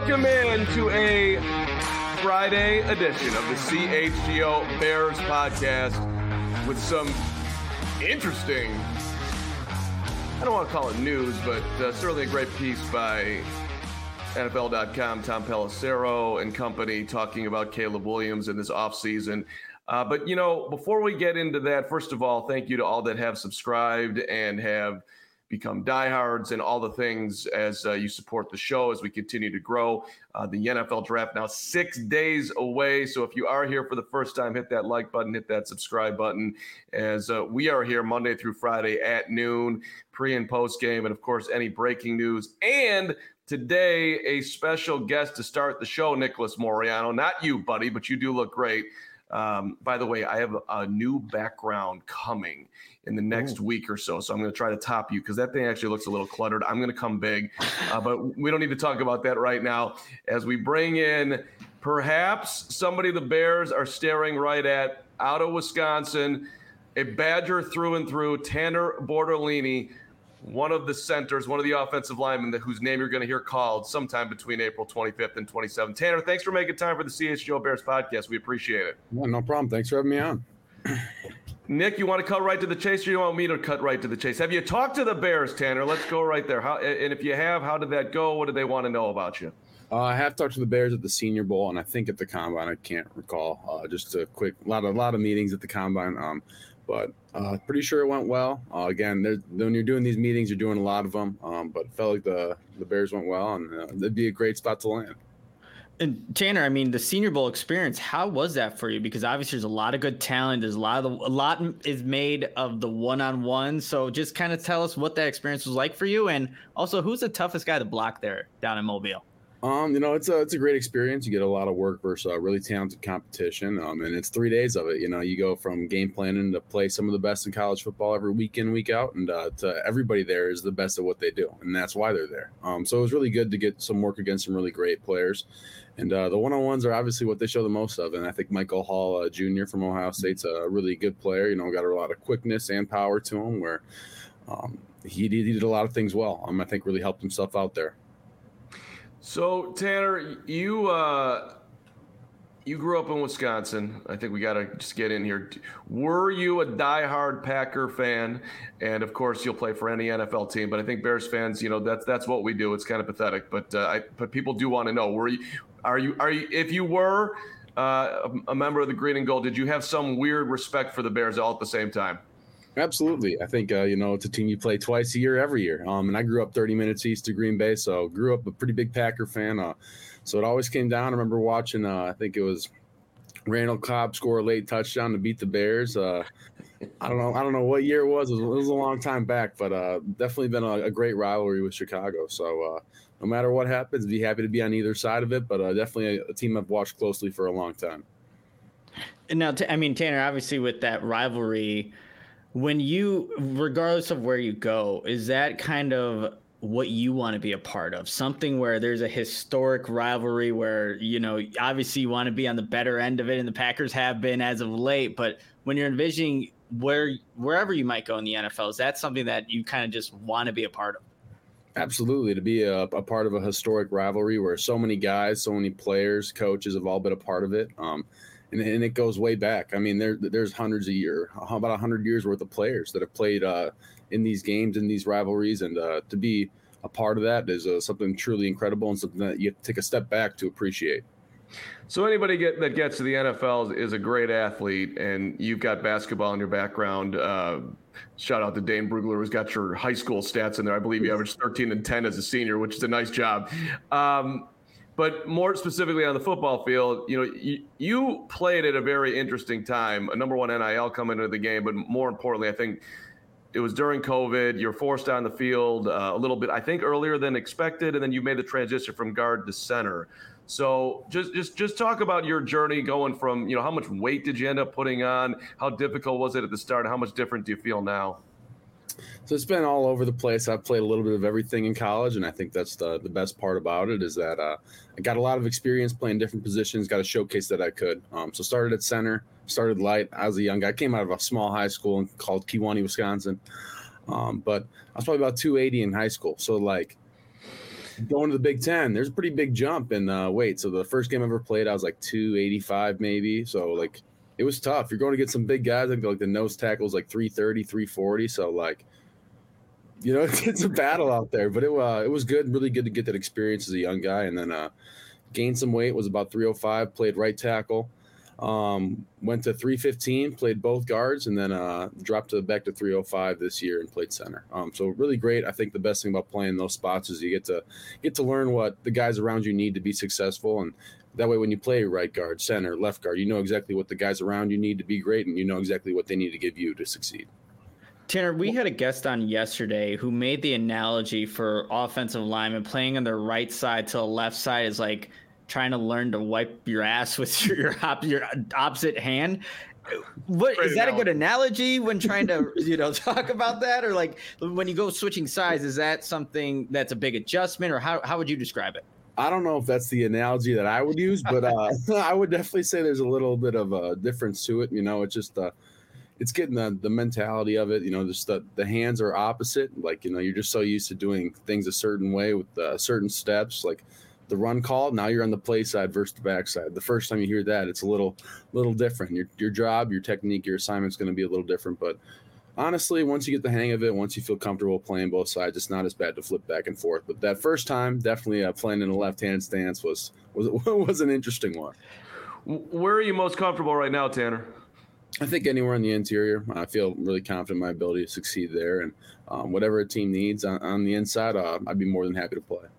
Welcome in to a Friday edition of the CHGO Bears podcast with some interesting, I don't want to call it news, but certainly a great piece by NFL.com, Tom Pelissero and company talking about Caleb Williams in this offseason. But, you know, before we get into that, first of all, thank you to all that have subscribed and have become diehards and all the things as you support the show as we continue to grow. The NFL draft now 6 days away. So if you are here for the first time, hit that like button, hit that subscribe button, as we are here Monday through Friday at noon, pre and post game, and of course, any breaking news. And today, a special guest to start the show, Nicholas Moreano. Not you, buddy, but you do look great. By the way, I have a new background coming in the next week or so. So I'm going to try to top you because that thing actually looks a little cluttered. I'm going to come big, but we don't need to talk about that right now as we bring in perhaps somebody the Bears are staring right at out of Wisconsin, a Badger through and through, Tanner Bortolini, one of the centers, one of the offensive linemen whose name you're going to hear called sometime between April 25th and 27th. Tanner, thanks for making time for the CHGO Bears podcast. We appreciate it. Yeah, no problem. Thanks for having me on. Nick, you want to cut right to the chase, or you want me to cut right to the chase? Have you talked to the Bears, Tanner? Let's go right there. And if you have, how did that go? What did they want to know about you? I have talked to the Bears at the Senior Bowl, and I think at the Combine. I can't recall. Just a quick, lot of meetings at the Combine. But pretty sure it went well. Again, when you're doing these meetings, you're doing a lot of them. But it felt like the Bears went well, and it'd be a great spot to land. And Tanner, I mean, the Senior Bowl experience, how was that for you? Because obviously there's a lot of good talent. There's a lot is made of the one-on-one. So just kind of tell us what that experience was like for you. And also, who's the toughest guy to block there down in Mobile? It's a great experience. You get a lot of work versus really talented competition. And it's 3 days of it. You know, you go from game planning to play some of the best in college football every week in, week out. And to everybody there is the best at what they do. And that's why they're there. So it was really good to get some work against some really great players. And the one-on-ones are obviously what they show the most of. And I think Michael Hall Jr. from Ohio State's a really good player. You know, got a lot of quickness and power to him where he did a lot of things well. I think really helped himself out there. So, Tanner, you grew up in Wisconsin. I think we got to just get in here. Were you a diehard Packer fan? And, of course, you'll play for any NFL team. But I think Bears fans, you know, that's what we do. It's kind of pathetic. But people do want to know, are you if you were a member of the Green and Gold, did you have some weird respect for the Bears all at the same time? Absolutely. I think, it's a team you play twice a year, every year. And I grew up 30 minutes east of Green Bay, so grew up a pretty big Packer fan. So it always came down. I remember watching, I think it was Randall Cobb score a late touchdown to beat the Bears. I don't know what year it was. It was a long time back, but definitely been a great rivalry with Chicago. So no matter what happens, be happy to be on either side of it, but definitely a team I've watched closely for a long time. And now, Tanner, obviously with that rivalry, when you, regardless of where you go, is that kind of what you want to be a part of? Something where there's a historic rivalry where, you know, obviously you want to be on the better end of it, and the Packers have been as of late, but when you're envisioning wherever you might go in the NFL, is that something that you kind of just want to be a part of? Absolutely. To be a part of a historic rivalry where so many guys, so many players, coaches have all been a part of it. And it goes way back. I mean, there's hundreds of years, about 100 years worth of players that have played in these games, in these rivalries. And to be a part of that is something truly incredible and something that you have to take a step back to appreciate. So anybody that gets to the NFL is a great athlete, and you've got basketball in your background. Shout out to Dane Brugler, who's got your high school stats in there. I believe you averaged 13 and 10 as a senior, which is a nice job. But more specifically on the football field, you know, you played at a very interesting time, a number one NIL coming into the game, but more importantly, I think it was during COVID. You're forced on the field a little bit, I think, earlier than expected, and then you made the transition from guard to center. So just talk about your journey going from, you know, how much weight did you end up putting on? How difficult was it at the start? How much different do you feel now? So it's been all over the place. I've played a little bit of everything in college, and I think that's the best part about it is that I got a lot of experience playing different positions, got to showcase that I could. So started at center, started light. I was a young guy. I came out of a small high school called Kewanee, Wisconsin. But I was probably about 280 in high school. So, like, going to the Big Ten, there's a pretty big jump in weight. So the first game I ever played, I was like 285 maybe. So like it was tough. You're going to get some big guys. Like the nose tackles like 330, 340. So like, you know, it's a battle out there. But it was good, really good to get that experience as a young guy. And then gained some weight, was about 305, played right tackle. Went to 315, played both guards, and then dropped back to 305 this year and played center. So really great. I think the best thing about playing those spots is you get to learn what the guys around you need to be successful, and that way when you play right guard, center, left guard, you know exactly what the guys around you need to be great, and you know exactly what they need to give you to succeed. Tanner, we had a guest on yesterday who made the analogy for offensive linemen playing on the right side to the left side is like trying to learn to wipe your ass with your opposite hand. What is that a good analogy when trying to talk about that, or like when you go switching sides? Is that something that's a big adjustment, or how would you describe it? I don't know if that's the analogy that I would use, but I would definitely say there's a little bit of a difference to it. It's just it's getting the mentality of it. Just the hands are opposite. Like you're just so used to doing things a certain way with certain steps, like the run call. Now you're on the play side versus the back side. The first time you hear that, it's a little different. Your job, your technique, your assignment's going to be a little different. But honestly, once you get the hang of it, once you feel comfortable playing both sides, it's not as bad to flip back and forth. But that first time, definitely playing in a left-hand stance was an interesting one. Where are you most comfortable right now, Tanner? I think anywhere in the interior. I feel really confident in my ability to succeed there. And whatever a team needs on the inside, I'd be more than happy to play.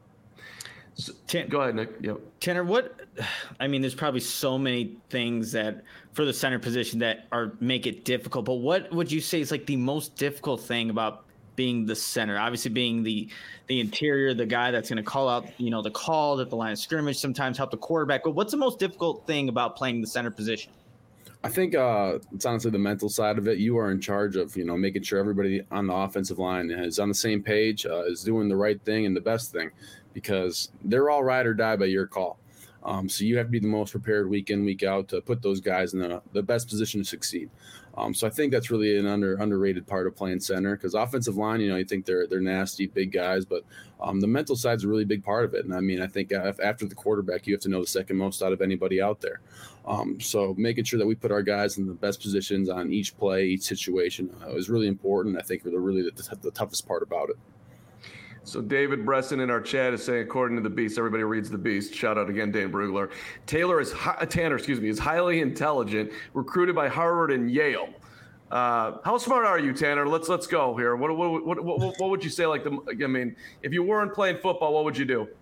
So, go ahead, Nick. Yep. Tanner, there's probably so many things that for the center position that make it difficult, but what would you say is like the most difficult thing about being the center? Obviously being the interior, the guy that's going to call out, the call at the line of scrimmage, sometimes help the quarterback, but what's the most difficult thing about playing the center position? I think it's honestly the mental side of it. You are in charge of, making sure everybody on the offensive line is on the same page, is doing the right thing and the best thing, because they're all ride or die by your call. So you have to be the most prepared week in, week out to put those guys in the best position to succeed. So I think that's really an underrated part of playing center, because offensive line, you think they're nasty, big guys, but the mental side is a really big part of it. And I think after the quarterback, you have to know the second most out of anybody out there. So making sure that we put our guys in the best positions on each play, each situation is really important. I think really the toughest part about it. So David Bresson in our chat is saying, according to the Beast, everybody reads the Beast. Shout out again, Dane Brugler. Tanner is highly intelligent, recruited by Harvard and Yale. How smart are you, Tanner? Let's go here. What would you say? If you weren't playing football, what would you do?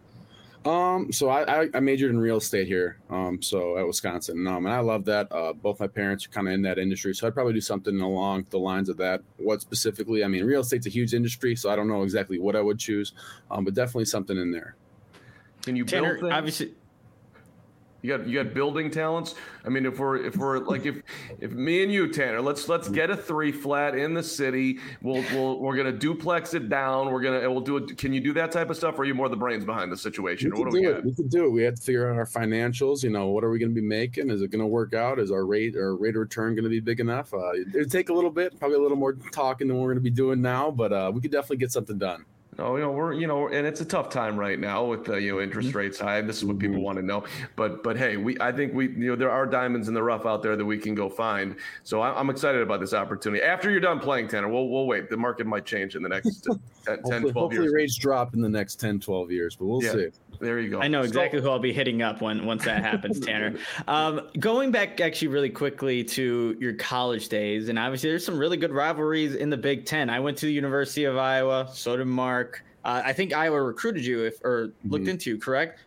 So I majored in real estate here, so at Wisconsin, and I love that. Both my parents are kind of in that industry, so I'd probably do something along the lines of that. What specifically? Real estate's a huge industry, so I don't know exactly what I would choose, but definitely something in there. Can you Tanner, build things? Obviously, you got building talents. If we're like if me and you, Tanner, let's get a 3 flat in the city. We're gonna duplex it down. We'll do it. Can you do that type of stuff, or are you more the brains behind the situation? We could do it. We have to figure out our financials. What are we gonna be making? Is it gonna work out? Is our rate of return gonna be big enough? It'd take a little bit, probably a little more talking than we're gonna be doing now, but we could definitely get something done. Oh, we're and it's a tough time right now with interest rates high. This is what people want to know. But hey, I think there are diamonds in the rough out there that we can go find. So I'm excited about this opportunity. After you're done playing, Tanner, we'll wait. The market might change in the next 10, 12 years. Hopefully rates drop in the next 10, 12 years, but we'll see. There you go. I know exactly who I'll be hitting up once that happens, Tanner. Going back actually really quickly to your college days, and obviously there's some really good rivalries in the Big Ten. I went to the University of Iowa, so did Mark. I think Iowa recruited you looked into you, correct?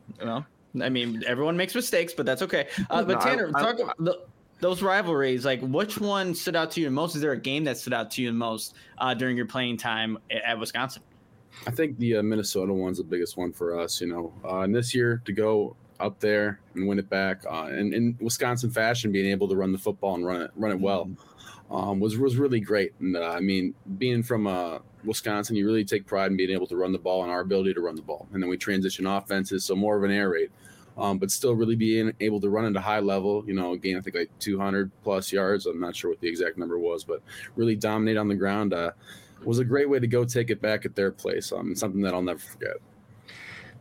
Everyone makes mistakes, but that's okay. But Tanner, talk about those rivalries. Like, which one stood out to you the most? Is there a game that stood out to you the most during your playing time at Wisconsin? I think the Minnesota one's the biggest one for us, and this year to go up there and win it back and in Wisconsin fashion, being able to run the football and run it well was really great. And being from Wisconsin, you really take pride in being able to run the ball and our ability to run the ball. And then we transition offenses, so more of an air raid, but still really being able to run at a high level, gain, I think, like 200 plus yards. I'm not sure what the exact number was, but really dominate on the ground was a great way to go take it back at their place. Something that I'll never forget.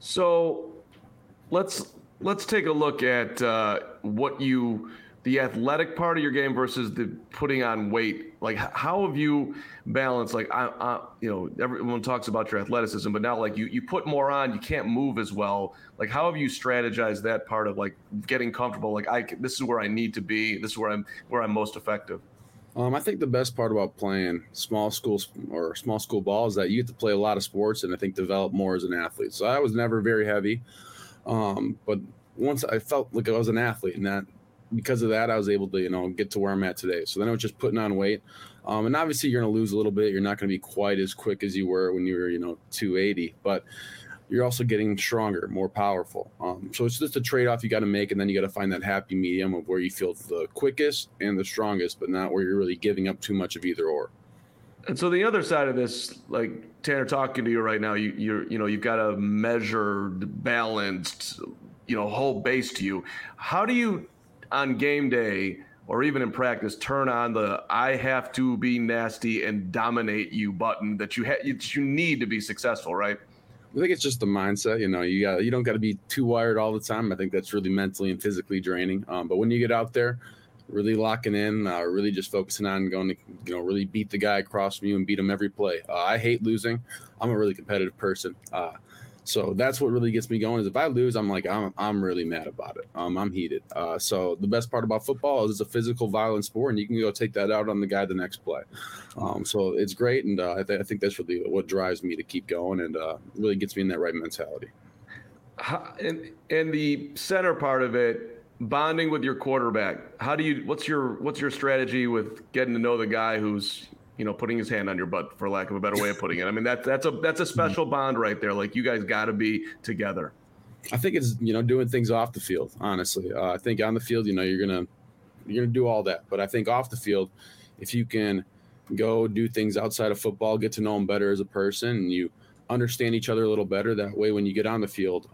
So let's take a look at the athletic part of your game versus the putting on weight. Like, how have you balanced? Like, everyone talks about your athleticism, but now like you put more on, you can't move as well. Like, how have you strategized that part of like getting comfortable? Like, this is where I need to be. This is where I'm most effective. I think the best part about playing small school ball is that you get to play a lot of sports and I think develop more as an athlete. So I was never very heavy, but once I felt like I was an athlete, and that because of that I was able to get to where I'm at today. So then I was just putting on weight, and obviously you're going to lose a little bit. You're not going to be quite as quick as you were when you were 280, but you're also getting stronger, more powerful. So it's just a trade-off you got to make, and then you got to find that happy medium of where you feel the quickest and the strongest, but not where you're really giving up too much of either or. And so the other side of this, like Tanner talking to you right now, you've got a measured, balanced, whole base to you. How do you, on game day or even in practice, turn on the "I have to be nasty and dominate you" button that you need to be successful, right? I think it's just the mindset. You don't got to be too wired all the time. I think that's really mentally and physically draining. But when you get out there, really locking in, really just focusing on going to, really beat the guy across from you and beat him every play. I hate losing. I'm a really competitive person. So that's what really gets me going is if I lose, I'm really mad about it. I'm heated. So the best part about football is it's a physical, violent sport, and you can go take that out on the guy the next play. So it's great, and I think that's really what drives me to keep going and really gets me in that right mentality. And the center part of it, bonding with your quarterback. What's your strategy with getting to know the guy who's putting his hand on your butt, for lack of a better way of putting it? I mean, that's a special bond right there. Like, you guys got to be together. I think it's doing things off the field. Honestly, I think on the field, you're gonna do all that, but I think off the field, if you can go do things outside of football, get to know them better as a person, and you understand each other a little better. That way, when you get on the field,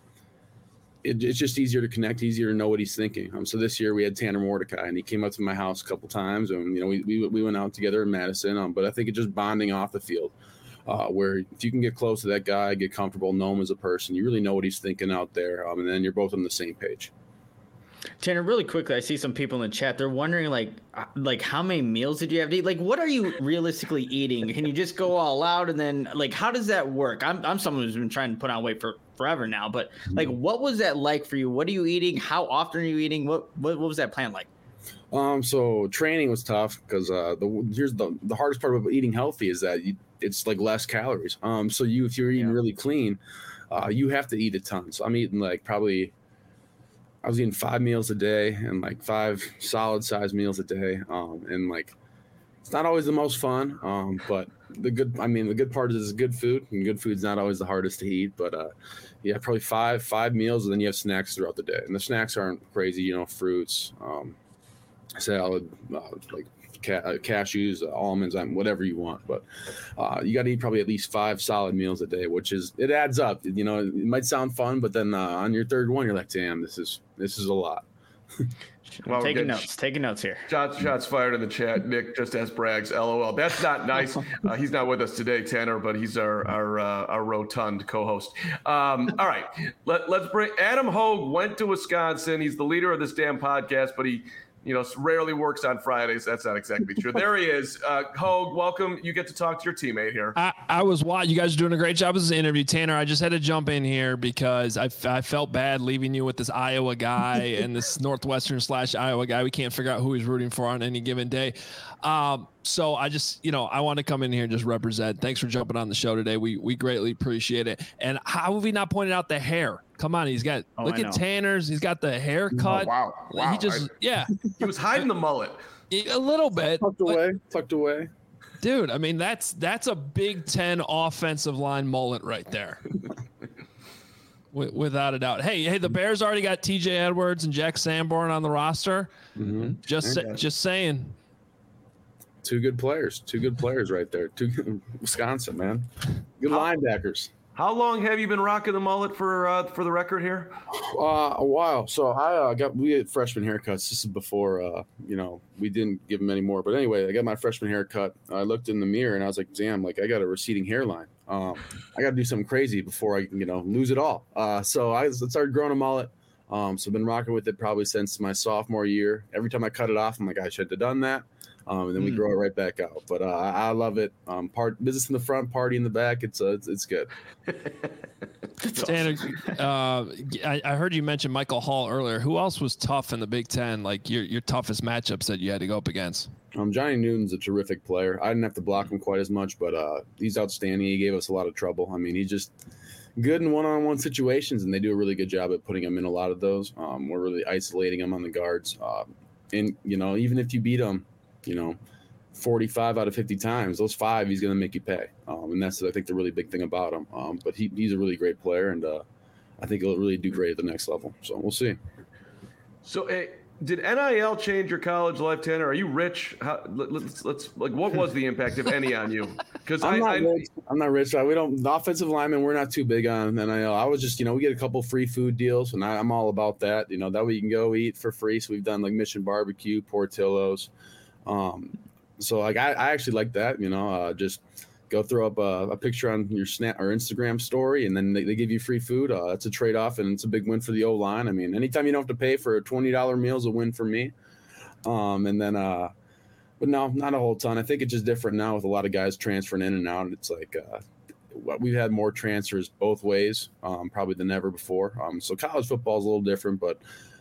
it's just easier to connect, easier to know what he's thinking. So this year we had Tanner Mordecai, and he came up to my house a couple times, and we went out together in Madison. But I think it's just bonding off the field, where if you can get close to that guy, get comfortable, know him as a person, you really know what he's thinking out there, and then you're both on the same page. Tanner, really quickly, I see some people in the chat. They're wondering, like how many meals did you have to eat? Like, what are you realistically eating? Can you just go all out? And then, like, how does that work? I'm someone who's been trying to put on weight for forever now. But, like, what was that like for you? What are you eating? How often are you eating? What was that plan like? So training was tough because here's the hardest part about eating healthy is that it's like less calories. So if you're eating really clean, you have to eat a ton. So I'm eating I was eating 5 meals a day and like 5 solid size meals a day. And like, it's not always the most fun. But the good part is it's good food, and good food's not always the hardest to eat, but yeah, probably five meals, and then you have snacks throughout the day. And the snacks aren't crazy, fruits, salad, like cashews, almonds, whatever you want. But you got to eat probably at least 5 solid meals a day, it adds up. It might sound fun, but then on your third one, you're like, damn, this is a lot. Well, taking notes here. Shots fired in the chat. Nick just asked Braggs, LOL. That's not nice. He's not with us today, Tanner, but he's our rotund co-host. All right, let's bring Adam Hogue. Went to Wisconsin. He's the leader of this damn podcast, but he rarely works on Fridays. That's not exactly true. There he is. Hogue, welcome. You get to talk to your teammate here. I was watching. You guys are doing a great job as an interview. Tanner, I just had to jump in here because I felt bad leaving you with this Iowa guy and this Northwestern/Iowa guy. We can't figure out who he's rooting for on any given day. So I just, I want to come in here and just represent. Thanks for jumping on the show today. We greatly appreciate it. And how have we not pointed out the hair? Come on, look at Tanner's. He's got the haircut. Oh, wow. He just, he was hiding the mullet. A little bit. Tucked away. Dude, I mean, that's a Big Ten offensive line mullet right there. Without a doubt. Hey, the Bears already got TJ Edwards and Jack Sanborn on the roster. Mm-hmm. Just saying. Two good players right there. Wisconsin, man. Good linebackers. How long have you been rocking the mullet for the record here? A while. So we had freshman haircuts. This is before we didn't give them any more. But anyway, I got my freshman haircut. I looked in the mirror and I was like, damn, like I got a receding hairline. I got to do something crazy before I can lose it all. So I started growing a mullet. So I've been rocking with it probably since my sophomore year. Every time I cut it off, I'm like, I should have done that. And then we grow it right back out. But I love it. Business in the front, party in the back. It's good. Tanner, I heard you mention Michael Hall earlier. Who else was tough in the Big Ten? Like your toughest matchups that you had to go up against? Johnny Newton's a terrific player. I didn't have to block him quite as much, but he's outstanding. He gave us a lot of trouble. I mean, he's just good in one-on-one situations, and they do a really good job at putting him in a lot of those. We're really isolating him on the guards. And even if you beat him, 45 out of 50 times, those 5 he's going to make you pay. And that's, I think, the really big thing about him. But he's a really great player, and I think he'll really do great at the next level. So we'll see. So did NIL change your college life, Tanner? Are you rich? Let's what was the impact, if any, on you? Because I'm not rich. The offensive linemen, we're not too big on NIL. I was just, we get a couple free food deals, and I'm all about that. That way you can go eat for free. So we've done like Mission Barbecue, Portillo's. So like I actually like that, just go throw up a picture on your Snap or Instagram story, and then they give you free food. It's a trade-off, and it's a big win for the O-line. I mean, anytime you don't have to pay for a $20 meal is a win for me. And then, but no, not a whole ton. I think it's just different now with a lot of guys transferring in and out. It's like we've had more transfers both ways, probably than ever before. So college football is a little different, but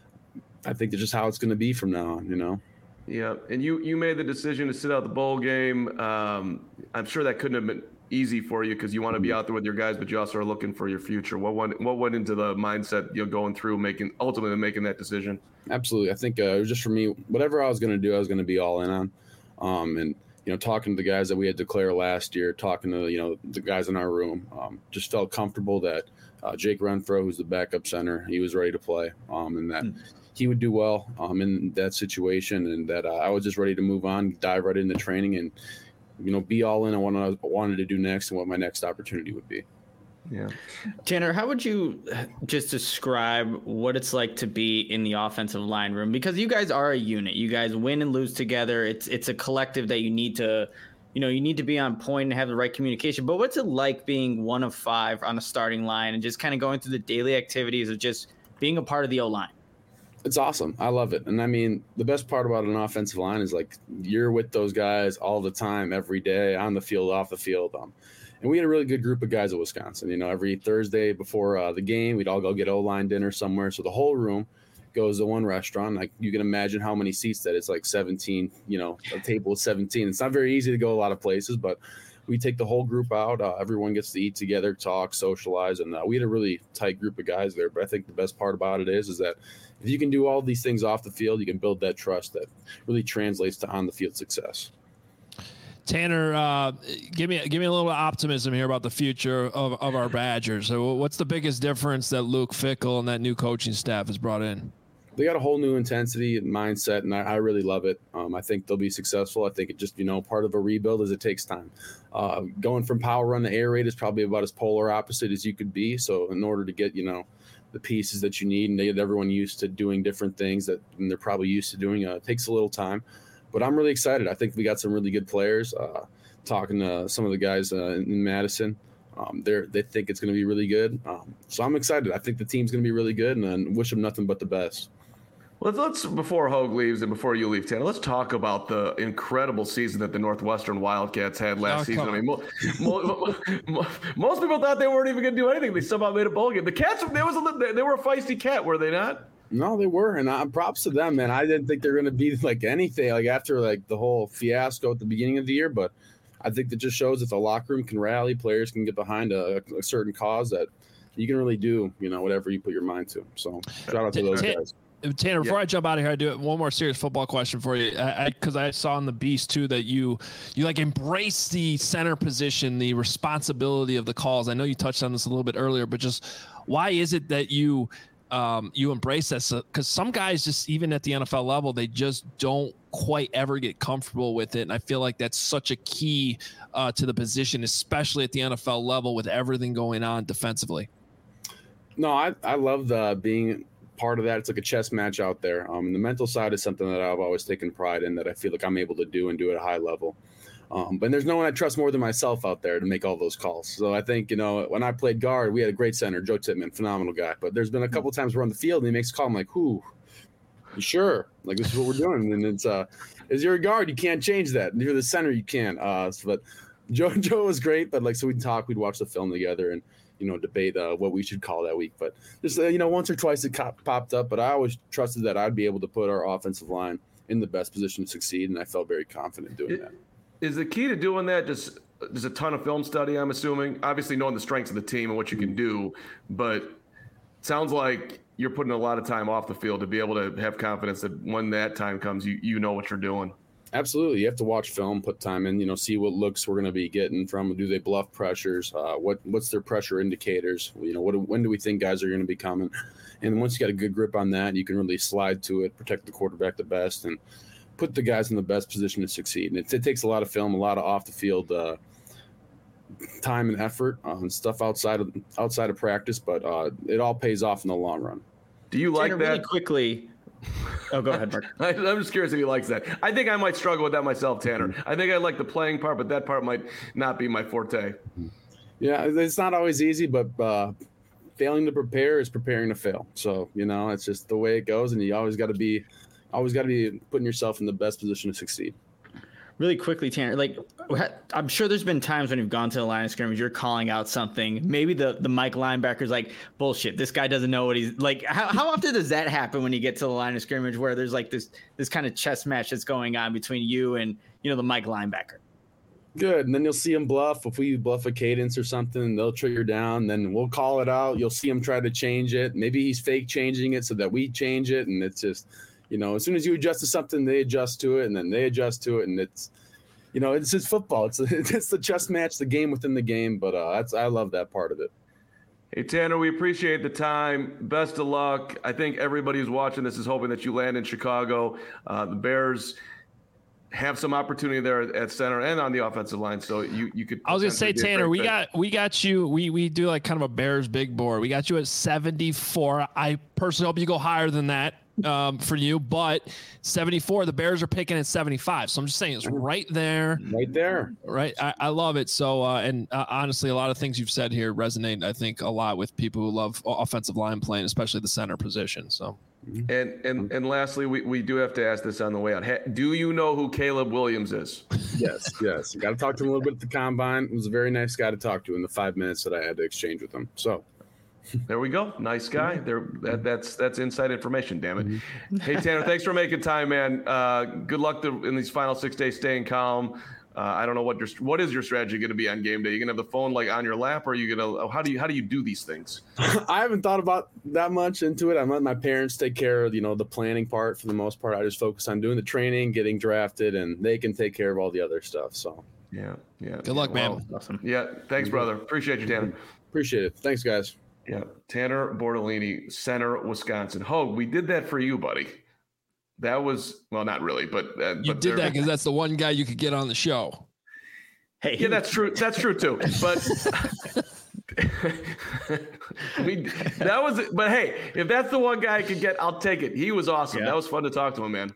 I think that's just how it's going to be from now on, Yeah, and you made the decision to sit out the bowl game. I'm sure that couldn't have been easy for you because you want to be out there with your guys, but you also are looking for your future. What went into the mindset going through ultimately making that decision? Absolutely, I think it was just for me. Whatever I was going to do, I was going to be all in on. And talking to the guys that we had declared last year, talking to the guys in our room, just felt comfortable that Jake Renfro, who's the backup center, he was ready to play, and that. He would do well in that situation, and that I was just ready to move on, dive right into training, and be all in on what I wanted to do next and what my next opportunity would be. Yeah, Tanner, how would you just describe what it's like to be in the offensive line room? Because you guys are a unit. You guys win and lose together. It's a collective that you need to. You need to be on point and have the right communication. But what's it like being one of 5 on a starting line and just kind of going through the daily activities of just being a part of the O-line? It's awesome. I love it. And I mean, the best part about an offensive line is like you're with those guys all the time, every day, on the field, off the field. And we had a really good group of guys at Wisconsin. Every Thursday before the game, we'd all go get O-line dinner somewhere. So the whole room goes to one restaurant. Like you can imagine how many seats that it's like 17, a table of 17. It's not very easy to go a lot of places, but we take the whole group out. Everyone gets to eat together, talk, socialize. And we had a really tight group of guys there. But I think the best part about it is that if you can do all these things off the field, you can build that trust that really translates to on the field success. Tanner, give me a little optimism here about the future of our Badgers. So what's the biggest difference that Luke Fickell and that new coaching staff has brought in? They got a whole new intensity and mindset, and I really love it. I think they'll be successful. I think it just, part of a rebuild is it takes time. Going from power run to air raid is probably about as polar opposite as you could be. So in order to get, the pieces that you need and they get everyone used to doing different things that they're probably used to doing, it takes a little time. But I'm really excited. I think we got some really good players. Talking to some of the guys in Madison, they think it's going to be really good. So I'm excited. I think the team's going to be really good, and wish them nothing but the best. Let's before Hogue leaves and before you leave, Tanner, let's talk about the incredible season that the Northwestern Wildcats had last season. I mean, most people thought they weren't even going to do anything. They somehow made a bowl game. The Cats, they were a feisty cat, were they not? No, they were, and props to them, man. I didn't think they were going to be like anything, like after like the whole fiasco at the beginning of the year, but I think that just shows that the locker room can rally, players can get behind a certain cause that you can really do, whatever you put your mind to. So shout out to those guys. Tanner, before I jump out of here, I do one more serious football question for you. Because I saw in the Beast too that you like embrace the center position, the responsibility of the calls. I know you touched on this a little bit earlier, but just why is it that you you embrace that, because some guys just, even at the NFL level, they just don't quite ever get comfortable with it. And I feel like that's such a key to the position, especially at the NFL level with everything going on defensively. No, I love being part of that. It's like a chess match out there. The mental side is something that I've always taken pride in, that I feel like I'm able to do and do at a high level. But there's no one I trust more than myself out there to make all those calls. So I think, when I played guard, we had a great center, Joe Tippmann, phenomenal guy. But there's been a couple of times we're on the field and he makes a call. I'm like, who? You sure? Like, this is what we're doing. And it's, as you're a guard, you can't change that. And you're the center, you can. But Joe was great. But like, so we'd talk, we'd watch the film together and, debate what we should call that week. But just, once or twice it popped up. But I always trusted that I'd be able to put our offensive line in the best position to succeed. And I felt very confident doing that. Is the key to doing that just a ton of film study, I'm assuming? Obviously knowing the strengths of the team and what you can do, but it sounds like you're putting a lot of time off the field to be able to have confidence that when that time comes, you know what you're doing. Absolutely. You have to watch film, put time in, see what looks we're going to be getting from. Do they bluff pressures? What's their pressure indicators? When do we think guys are going to be coming? And once you got a good grip on that, you can really slide to it, protect the quarterback the best, and put the guys in the best position to succeed. And it takes a lot of film, a lot of off the field time and effort and stuff outside of practice, but it all pays off in the long run. Do you like that? Really quickly. Oh, go ahead, Mark. I'm just curious if he likes that. I think I might struggle with that myself, Tanner. I think I like the playing part, but that part might not be my forte. Yeah, it's not always easy, but failing to prepare is preparing to fail. So, it's just the way it goes, and you always got to be putting yourself in the best position to succeed. Really quickly, Tanner, like, I'm sure there's been times when you've gone to the line of scrimmage, you're calling out something. Maybe the Mike linebacker's like, bullshit, this guy doesn't know what he's like. How often does that happen when you get to the line of scrimmage where there's like this kind of chess match that's going on between you and, the Mike linebacker? Good. And then you'll see him bluff. If we bluff a cadence or something, they'll trigger down. Then we'll call it out. You'll see him try to change it. Maybe he's fake changing it so that we change it. And it's just, as soon as you adjust to something, they adjust to it, and then they adjust to it, and it's, it's just football. It's the chess match, the game within the game. But I love that part of it. Hey, Tanner, we appreciate the time. Best of luck. I think everybody who's watching this is hoping that you land in Chicago. The Bears have some opportunity there at center and on the offensive line. So you could. I was gonna say, Tanner, we got you. We do like kind of a Bears big board. We got you at 74. I personally hope you go higher than that. For you, but 74, the Bears are picking at 75. So I'm just saying it's right there. Right there. Right. I love it. So, honestly, a lot of things you've said here resonate, I think, a lot with people who love offensive line playing, especially the center position. So, and lastly, we do have to ask this on the way out. Do you know who Caleb Williams is? Yes. Got to talk to him a little bit at the combine. He was a very nice guy to talk to in the 5 minutes that I had to exchange with him. So, there we go. Nice guy. That's inside information, damn it. Hey, Tanner, thanks for making time, man. Good luck in these final 6 days staying calm. I don't know what is your strategy going to be on game day? You going to have the phone like on your lap, or are you going to how do you do these things? I haven't thought about that much into it. I'm letting my parents take care of, the planning part for the most part. I just focus on doing the training, getting drafted, and they can take care of all the other stuff. So yeah. Good luck, man. Awesome. Yeah. Thanks, brother. Appreciate you, Tanner. Appreciate it. Thanks, guys. Yeah, Tanner Bortolini, Center, Wisconsin. Hogue, we did that for you, buddy. That was, well, not really, but you did that because that's the one guy you could get on the show. Hey, yeah, that's true. That's true too. But But hey, if that's the one guy I could get, I'll take it. He was awesome. Yeah. That was fun to talk to him, man.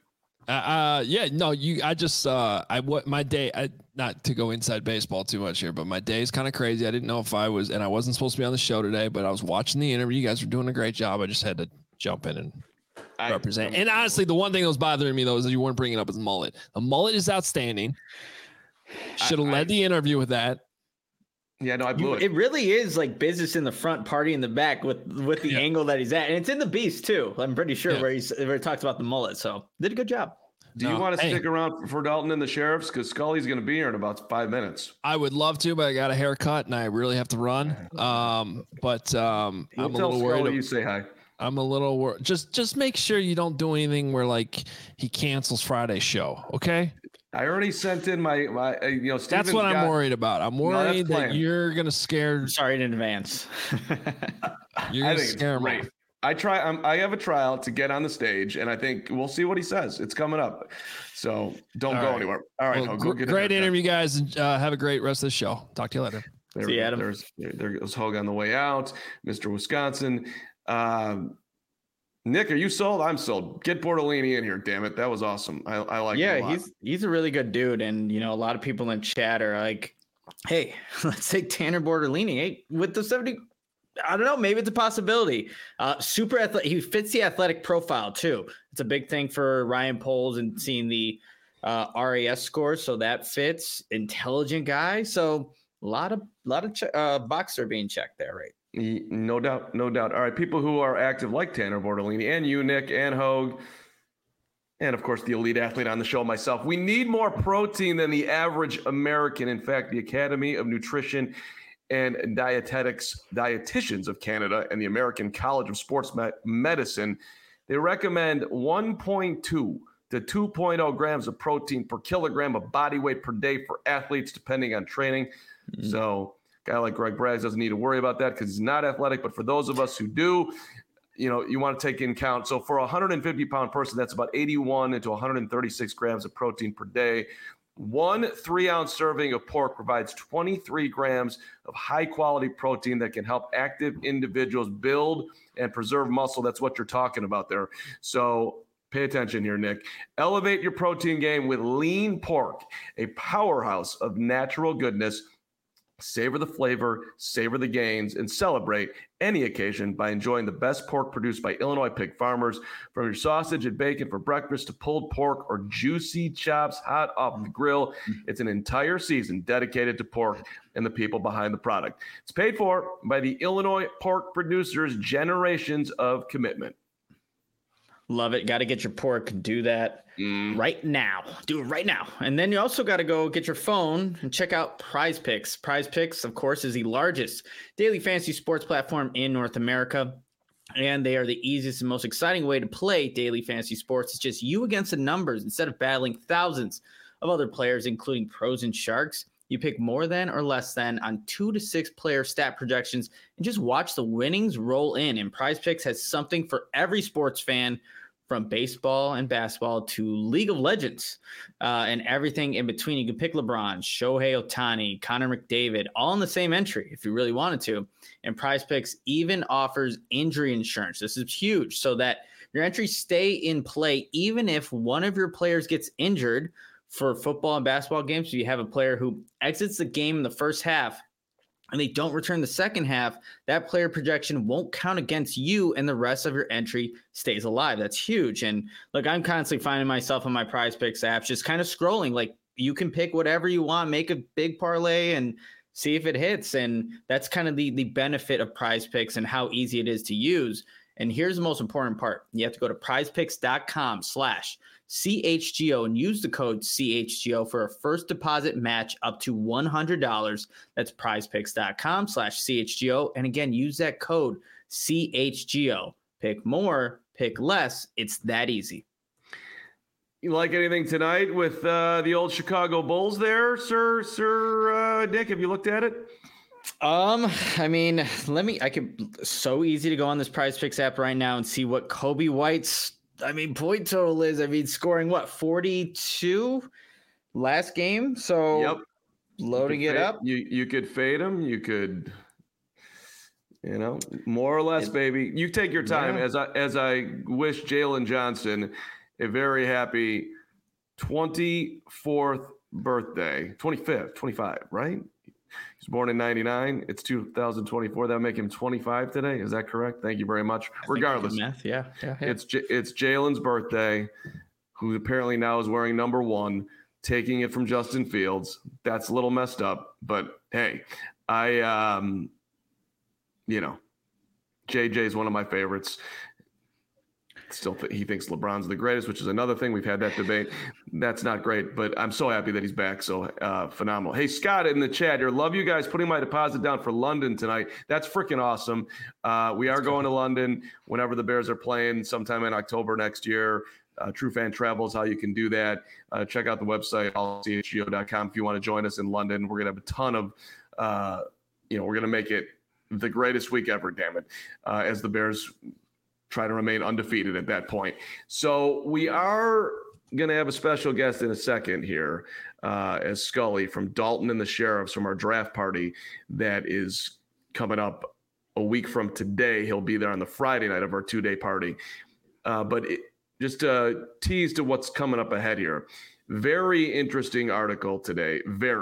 My day, not to go inside baseball too much here, but my day is kind of crazy. I didn't know if I wasn't supposed to be on the show today, but I was watching the interview. You guys were doing a great job. I just had to jump in and represent. And honestly, the one thing that was bothering me though is that you weren't bringing up his mullet. The mullet is outstanding. Should have led the interview with that. Yeah, no, I blew it. It really is like business in the front, party in the back with the angle that he's at. And it's in the Beast too. I'm pretty sure where he talks about the mullet. So did a good job. Do you want to stick around for Dalton and the Sheriffs? Because Scully's going to be here in about 5 minutes. I would love to, but I got a haircut and I really have to run. I'm a little worried. You say hi. I'm a little worried. Just make sure you don't do anything where like he cancels Friday's show. Okay. I already sent in my Steven's that's what I'm worried about. I'm worried that you're going to scare. Sorry in advance. You're going to scare me. I have a tryout to get on the stage, and I think we'll see what he says. It's coming up, so don't go anywhere. All right, well, great interview, guys, and have a great rest of the show. Talk to you later. See you, Adam. There goes Hogue on the way out, Mr. Wisconsin. Nick, are you sold? I'm sold. Get Bortolini in here, damn it. That was awesome. I like him a lot. He's a really good dude, and a lot of people in chat are like, hey, let's take Tanner Bortolini. Hey, with the 70, I don't know, maybe it's a possibility. Super athletic. He fits the athletic profile too. It's a big thing for Ryan Poles and seeing the RAS scores, so that fits. Intelligent guy, so a lot of boxes are being checked there, right? No doubt. All right, people who are active like Tanner Bortolini and you, Nick, and Hogue, and of course the elite athlete on the show, myself. We need more protein than the average American. In fact, the Academy of Nutrition and Dietitians of Canada and the American College of Sports Medicine, they recommend 1.2 to 2.0 grams of protein per kilogram of body weight per day for athletes, depending on training. Mm-hmm. So a guy like Greg Braggs doesn't need to worry about that because he's not athletic. But for those of us who do, you want to take in count. So for a 150-pound person, that's about 81 to 136 grams of protein per day. 1 3-ounce serving of pork provides 23 grams of high-quality protein that can help active individuals build and preserve muscle. That's what you're talking about there. So pay attention here, Nick. Elevate your protein game with lean pork, a powerhouse of natural goodness. Savor the flavor, savor the gains, and celebrate any occasion by enjoying the best pork produced by Illinois pig farmers. From your sausage and bacon for breakfast to pulled pork or juicy chops hot off the grill, it's an entire season dedicated to pork and the people behind the product. It's paid for by the Illinois pork producers' generations of commitment. Love it. Got to get your pork. Do that right now. Do it right now. And then you also got to go get your phone and check out Prize Picks. Prize Picks, of course, is the largest daily fantasy sports platform in North America. And they are the easiest and most exciting way to play daily fantasy sports. It's just you against the numbers instead of battling thousands of other players, including pros and sharks. You pick more than or less than on 2 to 6 player stat projections and just watch the winnings roll in. And Prize Picks has something for every sports fan, from baseball and basketball to League of Legends and everything in between. You can pick LeBron, Shohei Ohtani, Connor McDavid, all in the same entry if you really wanted to. And Prize Picks even offers injury insurance. This is huge, so that your entries stay in play even if one of your players gets injured. For football and basketball games, if you have a player who exits the game in the first half and they don't return the second half, that player projection won't count against you and the rest of your entry stays alive. That's huge. And look, I'm constantly finding myself on my Prize Picks apps just kind of scrolling. Like, you can pick whatever you want, make a big parlay and see if it hits. And that's kind of the benefit of Prize Picks and how easy it is to use. And here's the most important part. You have to go to prizepicks.com/CHGO and use the code CHGO for a first deposit match up to $100. That's prizepicks.com/CHGO. And again, use that code CHGO. Pick more, pick less. It's that easy. You like anything tonight with the old Chicago Bulls there, Sir Dick? Have you looked at it? I mean, so easy to go on this Prize Picks app right now and see what Kobe White's, point total is. Scoring 42 last game. So yep. Loading it up. You could fade him. You could, more or less, baby. You take your time. Yeah. As I wish Jalen Johnson a very happy 24th birthday, 25, right? He's born in 99. It's 2024. That'll make him 25 today. Is that correct? Thank you very much. Regardless, math. Yeah. It's Jalen's birthday, who apparently now is wearing number 1, taking it from Justin Fields. That's a little messed up, but hey, JJ is one of my favorites. Still, he thinks LeBron's the greatest, which is another thing. We've had that debate. That's not great, but I'm so happy that he's back. So phenomenal. Hey, Scott in the chat here. Love you guys putting my deposit down for London tonight. That's freaking awesome. We are going to London whenever the Bears are playing sometime in October next year. True Fan Travel is how you can do that. Check out the website, allchgo.com, if you want to join us in London. We're going to have a ton of, we're going to make it the greatest week ever, damn it, as the Bears try to remain undefeated at that point. So we are going to have a special guest in a second here, as Scully from Dalton and the Sheriffs from our draft party that is coming up a week from today. He'll be there on the Friday night of our 2-day party. Just a tease to what's coming up ahead here. Very interesting article today.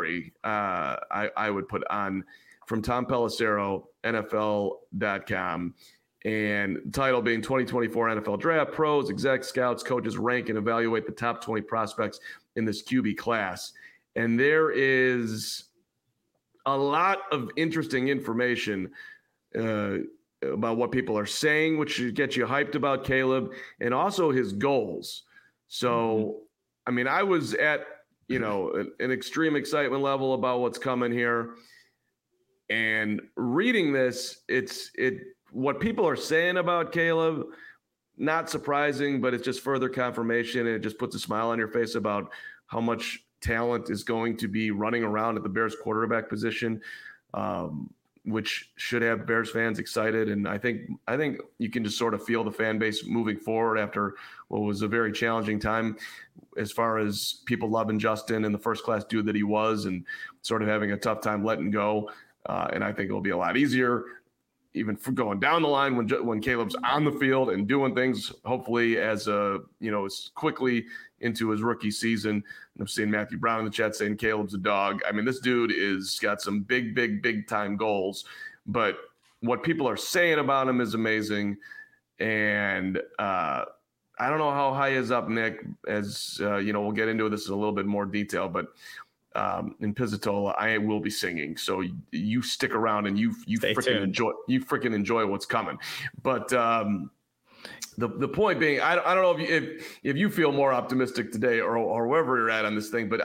I would put on from Tom Pelissero, NFL.com. And the title being 2024 NFL Draft, pros, execs, scouts, coaches rank and evaluate the top 20 prospects in this QB class. And there is a lot of interesting information about what people are saying, which should get you hyped about Caleb, and also his goals. So, I mean, I was at, an extreme excitement level about what's coming here. And reading this, what people are saying about Caleb, not surprising, but it's just further confirmation, and it just puts a smile on your face about how much talent is going to be running around at the Bears quarterback position, which should have Bears fans excited. And I think you can just sort of feel the fan base moving forward after what was a very challenging time as far as people loving Justin and the first-class dude that he was and sort of having a tough time letting go. And I think it'll be a lot easier even for going down the line when Caleb's on the field and doing things, hopefully as quickly into his rookie season. And I'm seeing Matthew Brown in the chat saying Caleb's a dog. I mean, this dude is got some big time goals, but what people are saying about him is amazing. And I don't know how high is up, Nick, as we'll get into this in a little bit more detail, but in Pizzatola, I will be singing. So you stick around and you freaking enjoy what's coming. But the point being, I don't know if you feel more optimistic today or wherever you're at on this thing, but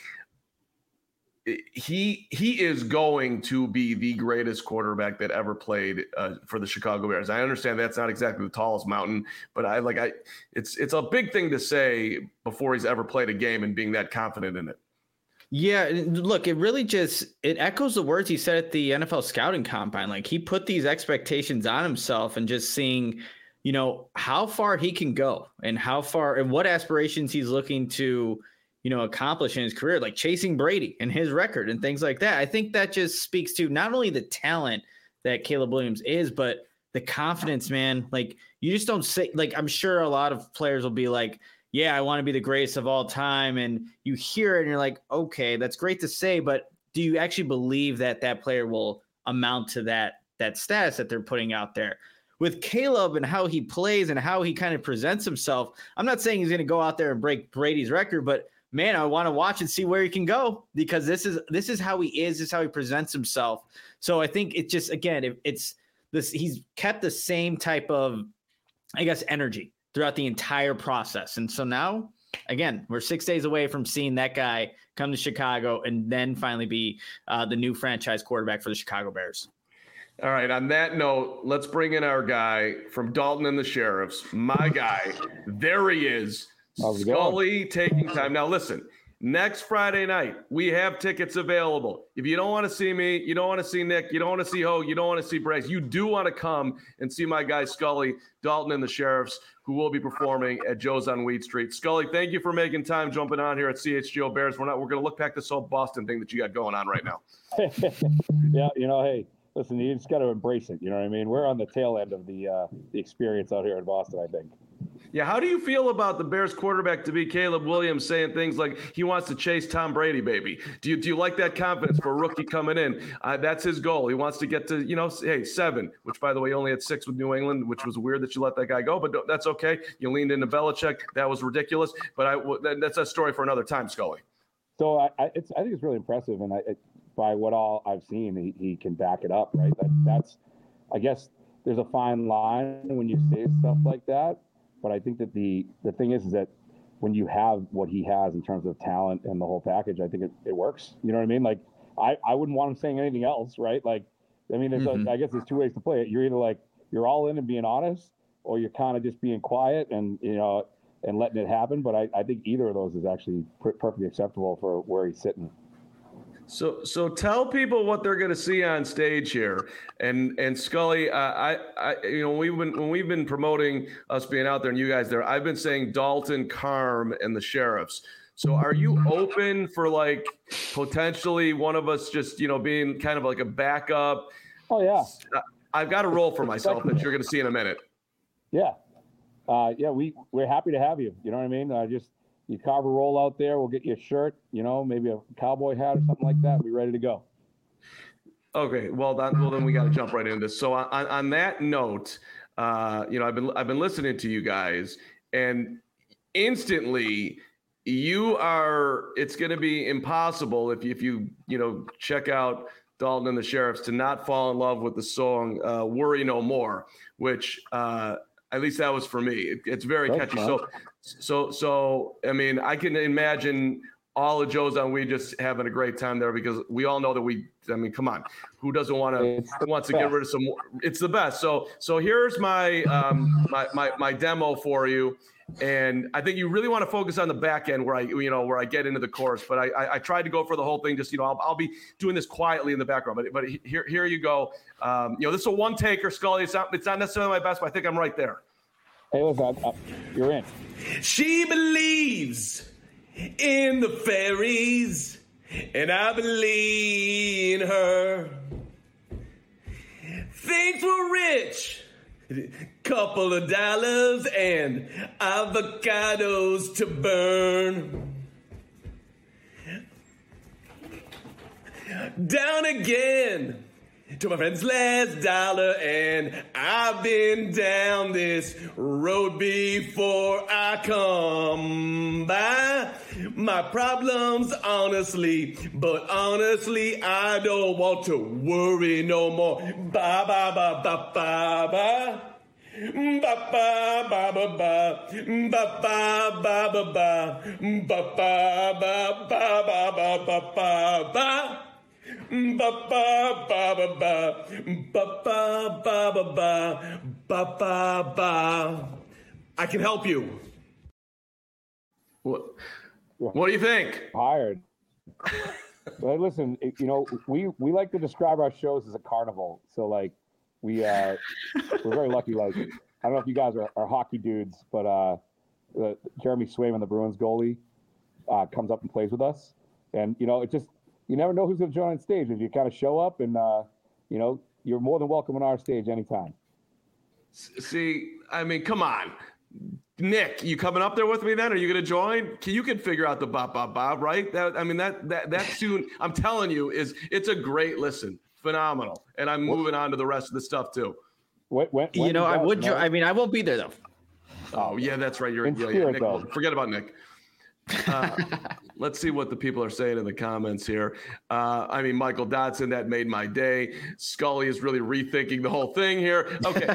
he is going to be the greatest quarterback that ever played for the Chicago Bears. I understand that's not exactly the tallest mountain, but it's a big thing to say before he's ever played a game and being that confident in it. Yeah, look, it echoes the words he said at the NFL scouting combine. Like, he put these expectations on himself and just seeing, how far he can go and how far and what aspirations he's looking to, accomplish in his career, like chasing Brady and his record and things like that. I think that just speaks to not only the talent that Caleb Williams is, but the confidence, man. Like, you just don't say, like, I'm sure a lot of players will be like, yeah, I want to be the greatest of all time. And you hear it and you're like, okay, that's great to say, but do you actually believe that player will amount to that status that they're putting out there? With Caleb and how he plays and how he kind of presents himself, I'm not saying he's going to go out there and break Brady's record, but man, I want to watch and see where he can go, because this is how he is. This is how he presents himself. So I think it just, again, it's this, he's kept the same type of, I guess, energy throughout the entire process. And so now, again, we're 6 days away from seeing that guy come to Chicago and then finally be the new franchise quarterback for the Chicago Bears. All right. On that note, let's bring in our guy from Dalton and the Sheriffs. My guy. There he is. Scully taking time. Now, listen, next Friday night, we have tickets available. If you don't want to see me, you don't want to see Nick, you don't want to see Hogue, you don't want to see Bryce, you do want to come and see my guy Scully, Dalton and the Sheriffs, who will be performing at Joe's on Weed Street. Scully, thank you for making time jumping on here at CHGO Bears. We're going to look back this whole Boston thing that you got going on right now. Yeah, hey, listen, you just got to embrace it. You know what I mean? We're on the tail end of the experience out here in Boston, I think. Yeah, how do you feel about the Bears quarterback to be Caleb Williams saying things like he wants to chase Tom Brady, baby? Do you like that confidence for a rookie coming in? That's his goal. He wants to get to, 7, which, by the way, only had 6 with New England, which was weird that you let that guy go, but that's okay. You leaned into Belichick. That was ridiculous, but that's a story for another time, Scully. So I think it's really impressive, and by what all I've seen, he can back it up, right? That's I guess there's a fine line when you say stuff like that. But I think that the thing is that when you have what he has in terms of talent and the whole package, I think it works. You know what I mean? Like, I wouldn't want him saying anything else, right? Like, I mean, I guess there's 2 ways to play it. You're either like, you're all in and being honest, or you're kind of just being quiet and, and letting it happen. But I think either of those is actually perfectly acceptable for where he's sitting. So tell people what they're going to see on stage here, and Scully, when we've been promoting us being out there and you guys there, I've been saying Dalton, Carm, and the Sheriffs. So are you open for like potentially one of us just being kind of like a backup? Oh yeah, I've got a role for myself that you're going to see in a minute. Yeah, we're happy to have you. You know what I mean? You carve a roll out there. We'll get you a shirt, maybe a cowboy hat or something like that. We're ready to go. Okay, well then we got to jump right into this. So on that note, I've been listening to you guys, and instantly it's going to be impossible if you check out Dalton and the Sheriffs to not fall in love with the song "Worry No More," which at least that was for me. It's very catchy. So I mean, I can imagine all of Joe's on Weed just having a great time there, because we all know that come on, who doesn't wants to get rid of some more? It's the best. So here's my my demo for you. And I think you really want to focus on the back end where I get into the chorus, but I tried to go for the whole thing. Just, I'll be doing this quietly in the background, but here you go. This is a one taker, Scully. It's not necessarily my best, but I think I'm right there. Hey, listen, you're in. She believes in the fairies, and I believe in her. Things were rich. Couple of dollars and avocados to burn. Down again to my friend's last dollar, and I've been down this road before. I come by my problems honestly, but honestly I don't want to worry no more. Ba ba ba ba ba ba. Ba ba ba ba ba ba ba ba ba ba ba ba ba ba ba ba ba. Ba ba ba ba ba ba ba ba ba ba ba ba. I can help you. What do you think? Hired. Well, listen, we like to describe our shows as a carnival. So like we're very lucky. Like, I don't know if you guys are hockey dudes, but Jeremy Swayman, the Bruins goalie, comes up and plays with us, and it just. You never know who's going to join on stage. If you kind of show up and, you're more than welcome on our stage anytime. See, I mean, come on. Nick, you coming up there with me then? Are you going to join? You can figure out the bop, bop, bop, right? That tune, I'm telling you, it's a great listen. Phenomenal. And I'm moving on to the rest of the stuff too. I won't be there though. Oh, yeah, that's right. Nick, forget about Nick. Let's see what the people are saying in the comments here. Michael Dotson, that made my day. Scully is really rethinking the whole thing here. Okay.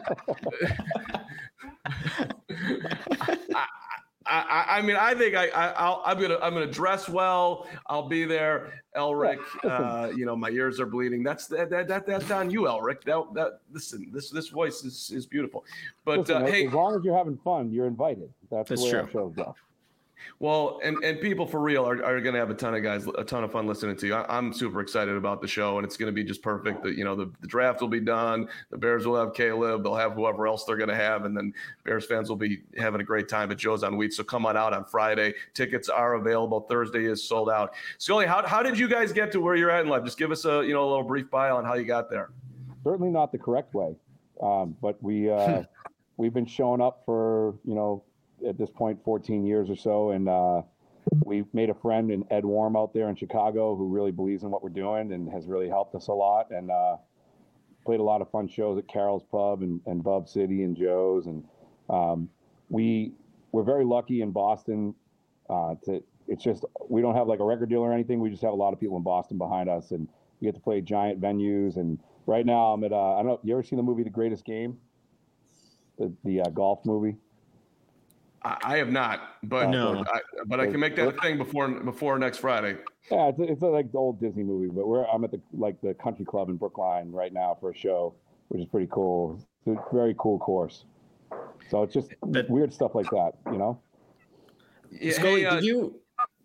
I think I'm gonna dress well. I'll be there. Elric, my ears are bleeding. That's on you, Elric. Listen, this voice is beautiful. But hey, as long as you're having fun, you're invited. That's the way our shows go. Well, and people for real are going to have a ton of fun listening to you. I'm super excited about the show, and it's going to be just perfect. The draft will be done. The Bears will have Caleb. They'll have whoever else they're going to have, and then Bears fans will be having a great time at Joe's on Wheat. So come on out on Friday. Tickets are available. Thursday is sold out. Scully, how did you guys get to where you're at in life? Just give us a little brief bio on how you got there. Certainly not the correct way, but we've been showing up for at this point 14 years or so, and we made a friend in Ed Warm out there in Chicago who really believes in what we're doing and has really helped us a lot, and played a lot of fun shows at Carol's Pub and Bub City and Joe's, and we're very lucky in Boston. It's just we don't have like a record deal or anything. We just have a lot of people in Boston behind us, and we get to play giant venues. And right now I'm at I don't know, you ever seen the movie The Greatest Game, the golf movie? I have not, but no. I can make that a thing before next Friday. Yeah, it's like the old Disney movie, but I'm at the country club in Brookline right now for a show, which is pretty cool. It's a very cool course. So it's just weird stuff like that, Yeah, Scully,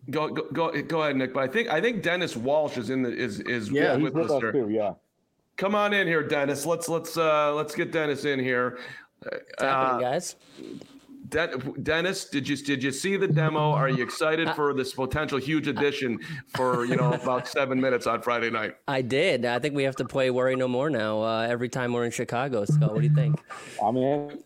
Go ahead, Nick. But I think Dennis Walsh is He's with with us us there. too. Yeah. Come on in here, Dennis. Let's get Dennis in here. What's happening, guys? Dennis, did you see the demo? Are you excited for this potential huge addition for about 7 minutes on Friday night? I did. I think we have to play Worry No More now every time we're in Chicago. Scott, what do you think? I'm in.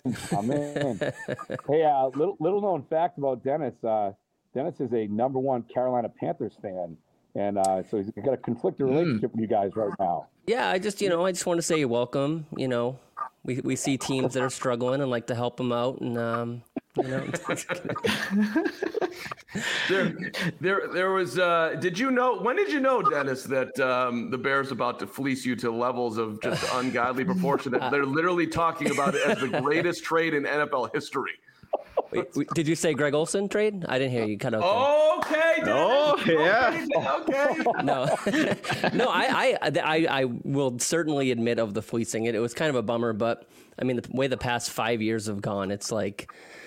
Hey, little known fact about Dennis. Dennis is a #1 Carolina Panthers fan, and so he's got a conflicted relationship with you guys right now. Yeah, I just want to say you're welcome. We see teams that are struggling and like to help them out, and There was. Did you know? When did you know, Dennis, that the Bears about to fleece you to levels of just ungodly proportion? That they're literally talking about it as the greatest trade in NFL history. Wait, did you say Greg Olsen trade? I didn't hear you. Cut out. Okay. Dennis. Oh, yeah. Okay. No, I will certainly admit of the fleecing. It was kind of a bummer, but I mean, the way the past 5 years have gone, it's like,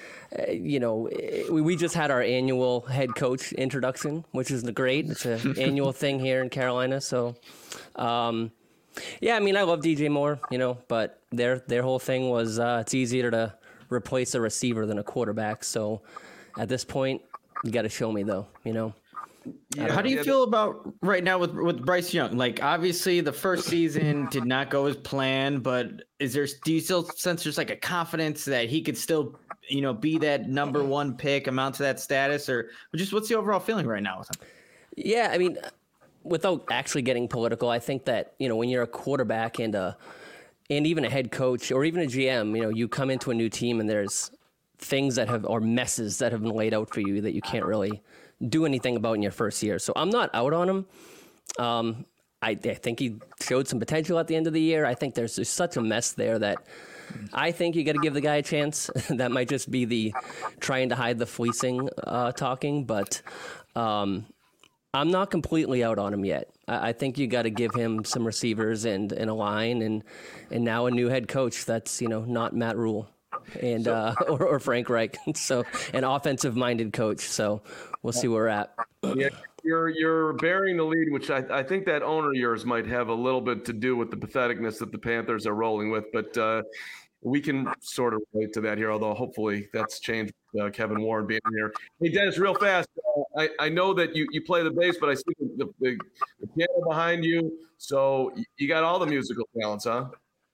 we just had our annual head coach introduction, which is great. It's an annual thing here in Carolina. So, yeah, I mean, I love DJ Moore, but their whole thing was it's easier to replace a receiver than a quarterback. So at this point, you got to show me though, Yeah, How do you feel about right now with Bryce Young? Like, obviously the first season did not go as planned, but do you still sense there's like a confidence that he could still, be that #1 pick, amount to that status, or just what's the overall feeling right now with him? Yeah, I mean, without actually getting political, I think that, when you're a quarterback and even a head coach or even a GM, you come into a new team and there's things or messes that have been laid out for you that you can't really do anything about in your first year. So I'm not out on him. I think he showed some potential at the end of the year. I think there's just such a mess there that I think you got to give the guy a chance. That might just be the trying to hide the fleecing talking, but I'm not completely out on him yet. I think you got to give him some receivers and a line and now a new head coach that's, not Matt Rule and or Frank Reich. So an offensive minded coach. So we'll see where we're at. Yeah, you're bearing the lead, which I think that owner of yours might have a little bit to do with the patheticness that the Panthers are rolling with, but we can sort of relate to that here, although hopefully that's changed with Kevin Warren being here. Hey, Dennis, real fast, I know that you play the bass, but I see the piano behind you, so you got all the musical talents, huh?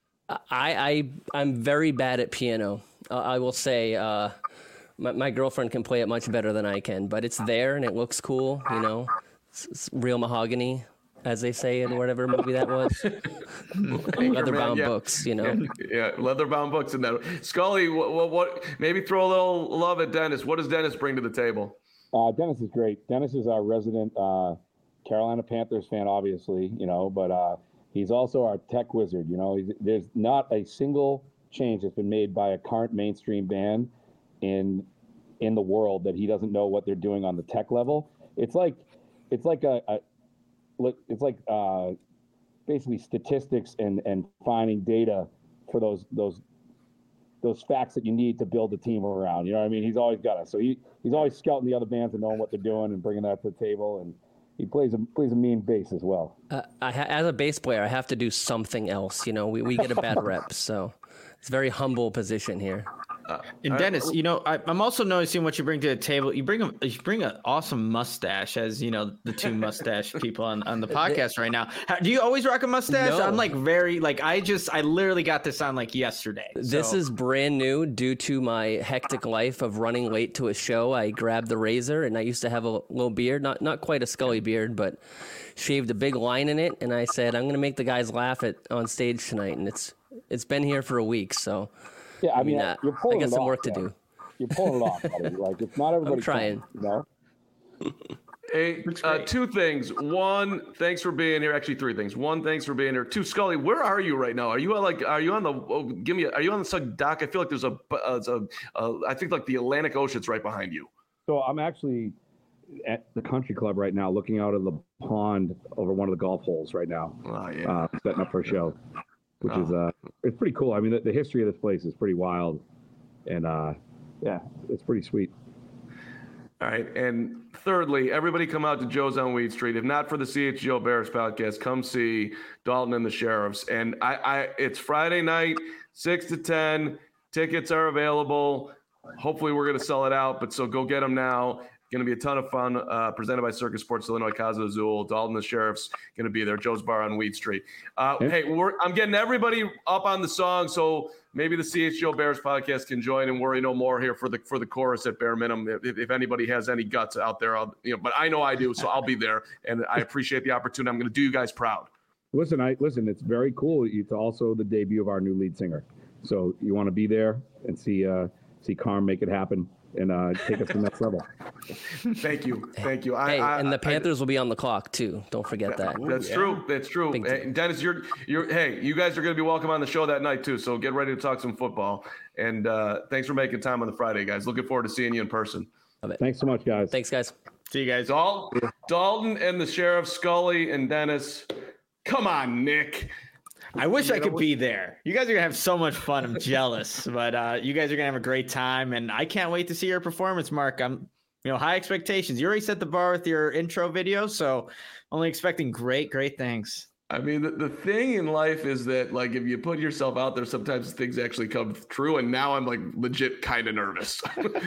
I'm very bad at piano. I will say my girlfriend can play it much better than I can, but it's there and it looks cool, It's real mahogany, as they say in whatever movie that was. Leather-bound books, Yeah, leather-bound books in that. Scully, what? Maybe throw a little love at Dennis. What does Dennis bring to the table? Dennis is great. Dennis is our resident Carolina Panthers fan, obviously, but he's also our tech wizard. There's not a single change that's been made by a current mainstream band in the world that he doesn't know what they're doing on the tech level. It's like basically statistics and finding data for those facts that you need to build a team around. You know what I mean? He's always got it. So he's always scouting the other bands and knowing what they're doing and bringing that to the table. And he plays a mean bass as well. As a bass player, I have to do something else. We get a bad rep, so it's a very humble position here. And Dennis, I'm also noticing what you bring to the table. You bring an awesome mustache, as the two mustache people on the podcast right now. Do you always rock a mustache? No. I'm I literally got this on yesterday. This is brand new due to my hectic life of running late to a show. I grabbed the razor and I used to have a little beard, not quite a Scully beard, but shaved a big line in it. And I said, I'm going to make the guys laugh on stage tonight. And it's been here for a week. So yeah, I mean, you're pulling I got it some off, work to man. do. You're pulling it off, buddy. It's not everybody. I'm trying. Hey, two things. One, thanks for being here. Actually, three things. One, thanks for being here. Two, Scully, where are you right now? Are you on the dock? I feel like there's I think the Atlantic Ocean's right behind you. So I'm actually at the country club right now, looking out of the pond over one of the golf holes right now. Oh, yeah. Setting up for a show, which is it's pretty cool. I mean, the history of this place is pretty wild, and yeah, it's pretty sweet. All right. And thirdly, everybody come out to Joe's on Weed Street. If not for the CHGO Bears podcast, come see Dalton and the Sheriffs. And it's Friday night, 6 to 10. Tickets are available. Hopefully we're going to sell it out, but so go get them now. Going to be a ton of fun. Presented by Circus Sports Illinois, Casa Azul. Dalton the Sheriff's going to be there. Joe's Bar on Weed Street. Hey, I'm getting everybody up on the song, so maybe the CHGO Bears podcast can join and worry no more here for the chorus at bare minimum. If anybody has any guts out there, but I know I do, so I'll be there, and I appreciate the opportunity. I'm going to do you guys proud. Listen, it's very cool. It's also the debut of our new lead singer, so you want to be there and see Carm make it happen and take us to the next level. Thank you. And the Panthers will be on the clock too. Don't forget that. That's true. Hey, Dennis, you guys are going to be welcome on the show that night too. So get ready to talk some football. And thanks for making time on the Friday, guys. Looking forward to seeing you in person. Thanks so much, guys. Thanks, guys. See you guys. Dalton and the Sheriff, Scully and Dennis. Come on, Nick. I wish I could be there. You guys are gonna have so much fun. I'm jealous, but you guys are gonna have a great time, and I can't wait to see your performance, Mark. I'm, high expectations. You already set the bar with your intro video, so only expecting great things. I mean, the thing in life is that, like, if you put yourself out there, sometimes things actually come true. And now I'm like legit kind of nervous.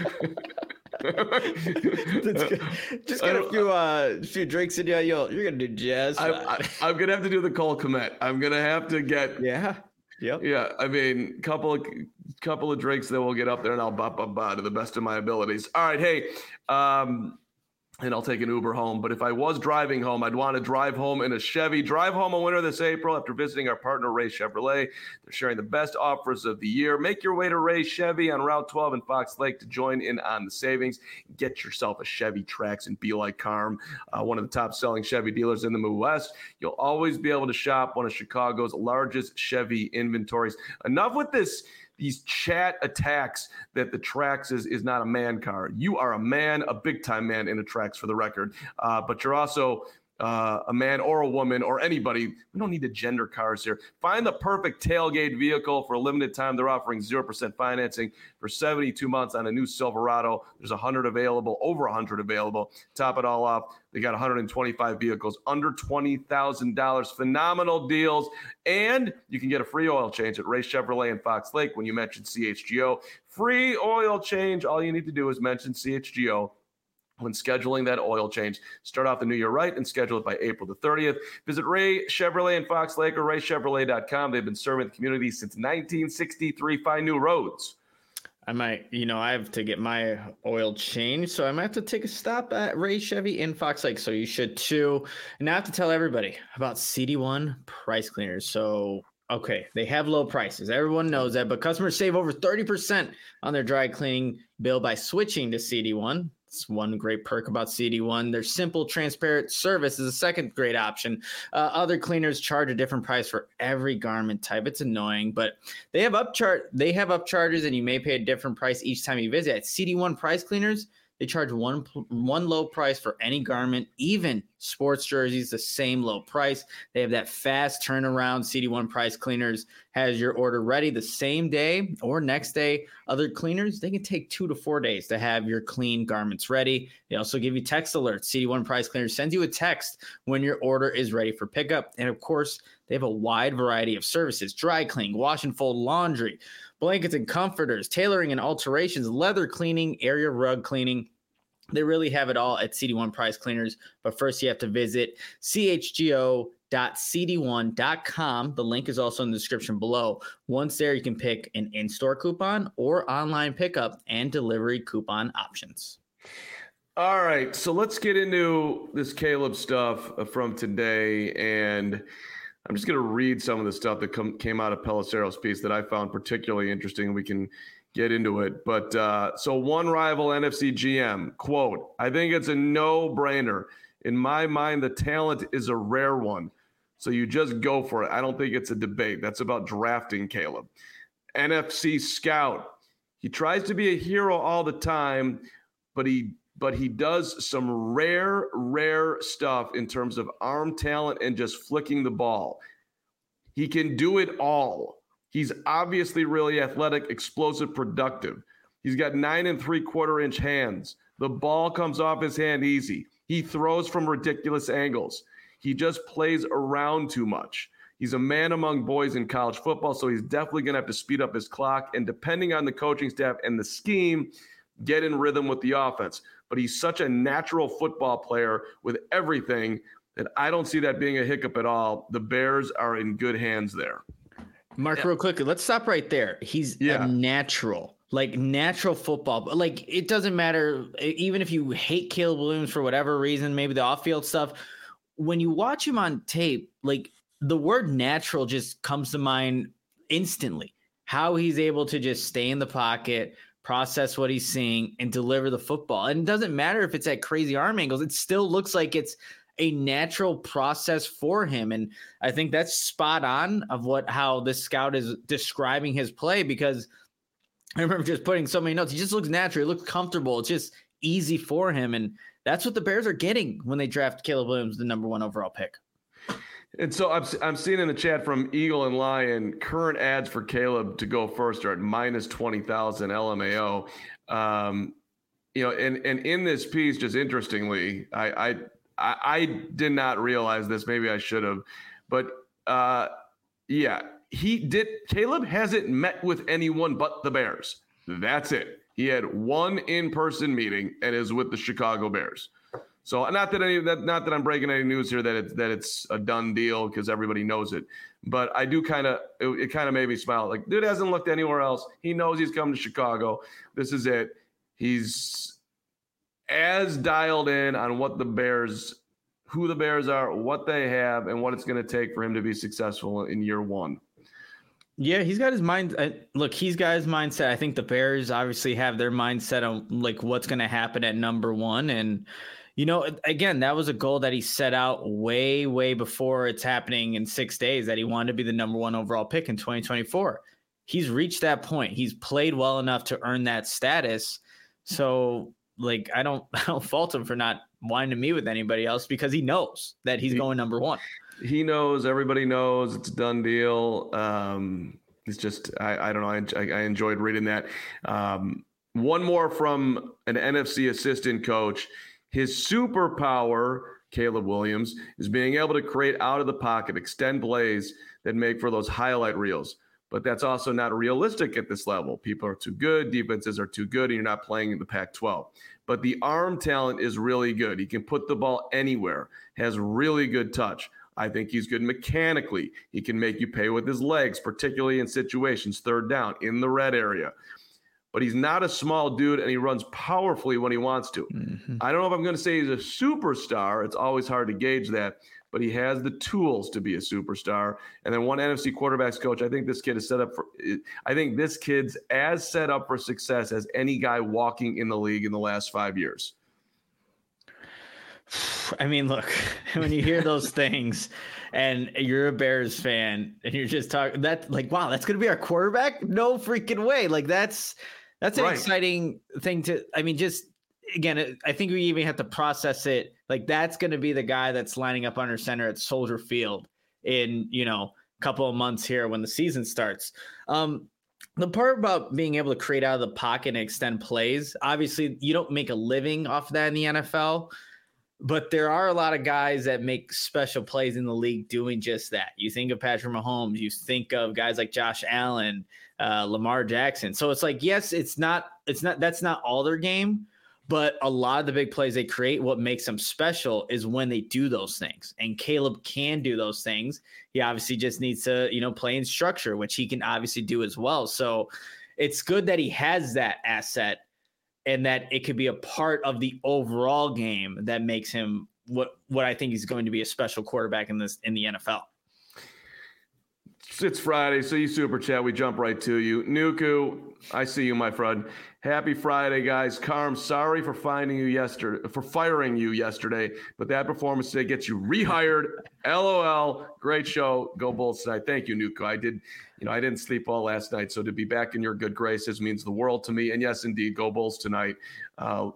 Just get a few drinks in you. You're gonna do jazz. I'm gonna have to do the Cole Kmet. I'm gonna have to get Yeah. I mean, couple of drinks, then we'll get up there and I'll ba to the best of my abilities. All right, hey. And I'll take an Uber home. But if I was driving home, I'd want to drive home in a Chevy. Drive home a winner this April after visiting our partner, Ray Chevrolet. They're sharing the best offers of the year. Make your way to Ray Chevy on Route 12 in Fox Lake to join in on the savings. Get yourself a Chevy Trax and be like Carm, one of the top-selling Chevy dealers in the Midwest. You'll always be able to shop one of Chicago's largest Chevy inventories. Enough with these chat attacks that the Trax is not a man car. You are a man, a big-time man in a Trax, for the record. But you're also a man or a woman or anybody. We don't need to gender cars here. Find the perfect tailgate vehicle. For a limited time, they're offering 0% financing for 72 months on a new Silverado. There's over 100 available. Top it all off, they got 125 vehicles under $20,000. Phenomenal deals. And you can get a free oil change at Ray Chevrolet in Fox Lake when you mention CHGO. Free oil change. All you need to do is mention CHGO when scheduling that oil change. Start off the new year right and schedule it by April the 30th. Visit Ray Chevrolet in Fox Lake or raychevrolet.com. They've been serving the community since 1963. Find new roads. I might, I have to get my oil changed, so I might have to take a stop at Ray Chevy in Fox Lake. So you should too. And now I have to tell everybody about CD1 price cleaners. So, okay, they have low prices. Everyone knows that, but customers save over 30% on their dry cleaning bill by switching to CD1. It's one great perk about CD1. Their simple, transparent service is a second great option. Other cleaners charge a different price for every garment type. It's annoying, but they have upcharges, and you may pay a different price each time you visit. At CD1 price cleaners, they charge one low price for any garment, even sports jerseys, the same low price. They have that fast turnaround. CD1 price cleaners has your order ready the same day or next day. Other cleaners, they can take 2 to 4 days to have your clean garments ready. They also give you text alerts. CD1 price cleaners sends you a text when your order is ready for pickup. And of course, they have a wide variety of services: dry cleaning, wash and fold laundry, blankets and comforters, tailoring and alterations, leather cleaning, area rug cleaning. They really have it all at CD1 Price Cleaners. But first, you have to visit chgo.cd1.com. The link is also in the description below. Once there, you can pick an in-store coupon or online pickup and delivery coupon options. All right, so let's get into this Caleb stuff from today. And I'm just going to read some of the stuff that came out of Pelissero's piece that I found particularly interesting. We can get into it. But so one rival NFC GM, quote, "I think it's a no-brainer. In my mind, the talent is a rare one. So you just go for it. I don't think it's a debate. That's about drafting Caleb." NFC scout, he tries to be a hero all the time, but he does some rare stuff in terms of arm talent and just flicking the ball. He can do it all. He's obviously really athletic, explosive, productive. He's got 9 3/4 inch hands, The ball comes off his hand easy. He throws from ridiculous angles. He just plays around too much. He's a man among boys in college football, so he's definitely going to have to speed up his clock and, depending on the coaching staff and the scheme, get in rhythm with the offense. But he's such a natural football player with everything that I don't see that being a hiccup at all. The Bears are in good hands there. Mark, real quickly, let's stop right there. He's a natural football. Like, it doesn't matter, even if you hate Caleb Williams for whatever reason, maybe the off-field stuff, when you watch him on tape, like, the word natural just comes to mind instantly. How he's able to just stay in the pocket, process what he's seeing, and deliver the football. And it doesn't matter if it's at crazy arm angles. It still looks like it's a natural process for him. And I think that's spot on of how this scout is describing his play, because I remember just putting so many notes. He just looks natural. He looks comfortable. It's just easy for him. And that's what the Bears are getting when they draft Caleb Williams, the number 1 overall pick. And so I'm seeing in the chat from Eagle and Lion, current ads for Caleb to go first are at minus 20,000 LMAO. And in this piece, just interestingly, I did not realize this. Maybe I should have, but Caleb hasn't met with anyone but the Bears. That's it. He had one in-person meeting and is with the Chicago Bears. So not that I'm breaking any news here that it's a done deal, because everybody knows it. But I do it kind of made me smile. Like, dude hasn't looked anywhere else. He knows he's coming to Chicago. This is it. He's as dialed in on who the Bears are, what they have, and what it's going to take for him to be successful in year 1. Yeah, he's got his mind. He's got his mindset. I think the Bears obviously have their mindset on like what's going to happen at number 1. And, again, that was a goal that he set out way, way before it's happening in 6 days, that he wanted to be the number 1 overall pick in 2024. He's reached that point. He's played well enough to earn that status. So, I don't fault him for not wanting to meet with anybody else, because he knows that he's going number 1. He knows, everybody knows, it's a done deal. It's just, I don't know. I enjoyed reading that. One more from an NFC assistant coach. His superpower, Caleb Williams, is being able to create out of the pocket, extend plays that make for those highlight reels. But that's also not realistic at this level. People are too good, defenses are too good, and you're not playing in the Pac-12. But the arm talent is really good. He can put the ball anywhere, has really good touch. I think he's good mechanically. He can make you pay with his legs, particularly in situations, 3rd down, in the red area. But he's not a small dude, and he runs powerfully when he wants to. Mm-hmm. I don't know if I'm going to say he's a superstar. It's always hard to gauge that. But he has the tools to be a superstar. And then one NFC quarterbacks coach, I think this kid's as set up for success as any guy walking in the league in the last 5 years. I mean, look, when you hear those things and you're a Bears fan and you're just talking that, like, wow, that's going to be our quarterback? No freaking way. Like, that's an exciting thing to, I mean, just, again, I think we even have to process it. Like, that's going to be the guy that's lining up under center at Soldier Field in, a couple of months here when the season starts. The part about being able to create out of the pocket and extend plays, obviously you don't make a living off of that in the NFL, but there are a lot of guys that make special plays in the league doing just that. You think of Patrick Mahomes, you think of guys like Josh Allen, Lamar Jackson. So it's like, yes, that's not all their game, but a lot of the big plays they create, what makes them special is when they do those things. And Caleb can do those things. He obviously just needs to, play in structure, which he can obviously do as well. So it's good that he has that asset and that it could be a part of the overall game that makes him what I think he's going to be a special quarterback in the NFL. It's Friday, so you super chat. We jump right to you. Nuku, I see you, my friend. Happy Friday, guys. Carm, sorry for firing you yesterday, but that performance today gets you rehired. LOL. Great show. Go Bulls tonight. Thank you, Nuku. I didn't sleep all last night, so to be back in your good graces means the world to me. And yes, indeed, go Bulls tonight. No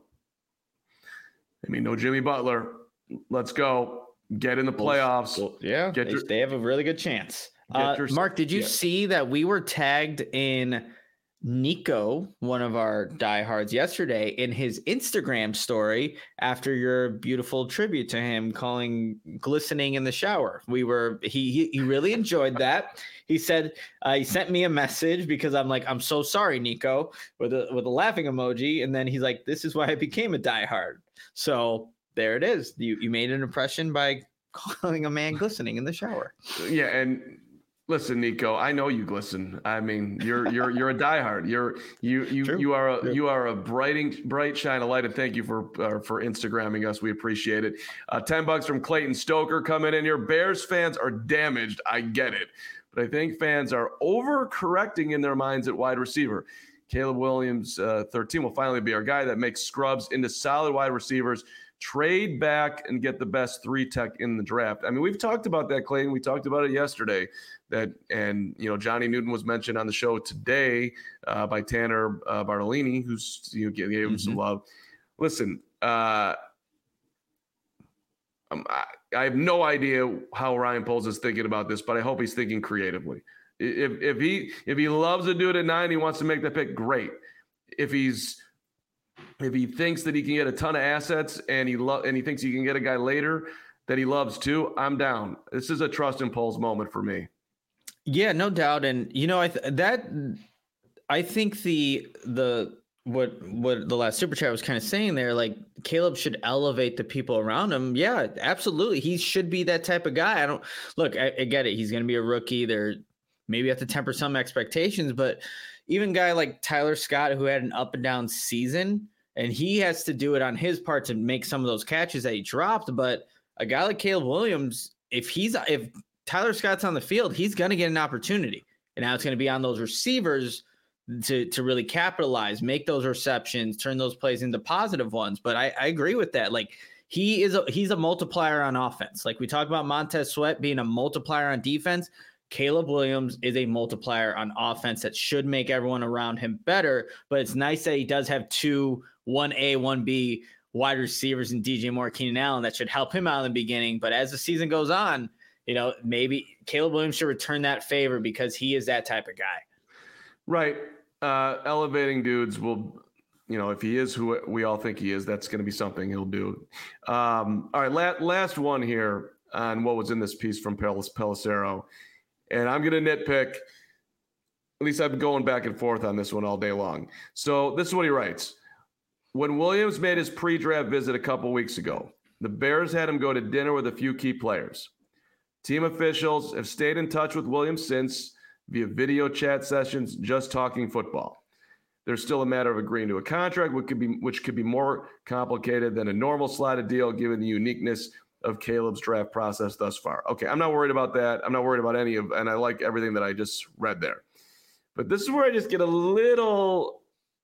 Jimmy Butler. Let's go. Get in the playoffs. Well, yeah, they have a really good chance. Mark, did you see that we were tagged in Nico, one of our diehards yesterday, in his Instagram story after your beautiful tribute to him, calling glistening in the shower. He really enjoyed that. He said he sent me a message because I'm like, I'm so sorry, Nico, with a laughing emoji, and then he's like, this is why I became a diehard. So there it is. You made an impression by calling a man glistening in the shower. Yeah, and listen, Nico, I know you glisten. I mean, you're a diehard. You are a bright shine of light, and thank you for Instagramming us. We appreciate it. $10 from Clayton Stoker coming in here. Bears fans are damaged. I get it, but I think fans are overcorrecting in their minds at wide receiver. Caleb Williams, 13, will finally be our guy that makes scrubs into solid wide receivers. Trade back and get the best 3 tech in the draft. I mean, we've talked about that, Clayton. We talked about it yesterday. And Johnny Newton was mentioned on the show today by Tanner Bartolini, who's gave him some love. Listen, I have no idea how Ryan Poles is thinking about this, but I hope he's thinking creatively. If he loves to do it at 9, he wants to make the pick, great. If he thinks that he can get a ton of assets and he thinks he can get a guy later that he loves too, I'm down. This is a trust in Poles moment for me. Yeah, no doubt. And I think what the last super chat was kind of saying there, like Caleb should elevate the people around him. Yeah, absolutely. He should be that type of guy. I get it. He's going to be a rookie. There maybe have to temper some expectations, but even a guy like Tyler Scott, who had an up and down season, and he has to do it on his part to make some of those catches that he dropped. But a guy like Caleb Williams, if Tyler Scott's on the field, he's going to get an opportunity. And now it's going to be on those receivers to really capitalize, make those receptions, turn those plays into positive ones. But I agree with that. Like he's a multiplier on offense. Like we talk about Montez Sweat being a multiplier on defense. Caleb Williams is a multiplier on offense that should make everyone around him better. But it's nice that he does have 2 1A, 1B wide receivers in DJ Moore, Keenan Allen that should help him out in the beginning. But as the season goes on, maybe Caleb Williams should return that favor because he is that type of guy. Right. Elevating dudes will, if he is who we all think he is, that's going to be something he'll do. All right. Last one here on what was in this piece from Pelissero. And I'm going to nitpick. At least I've been going back and forth on this one all day long. So this is what he writes. When Williams made his pre-draft visit a couple weeks ago, the Bears had him go to dinner with a few key players. Team officials have stayed in touch with Williams since via video chat sessions, just talking football. There's still a matter of agreeing to a contract, which could be more complicated than a normal slotted deal given the uniqueness of Caleb's draft process thus far. Okay, I'm not worried about that. I'm not worried about and I like everything that I just read there. But this is where I just get a little,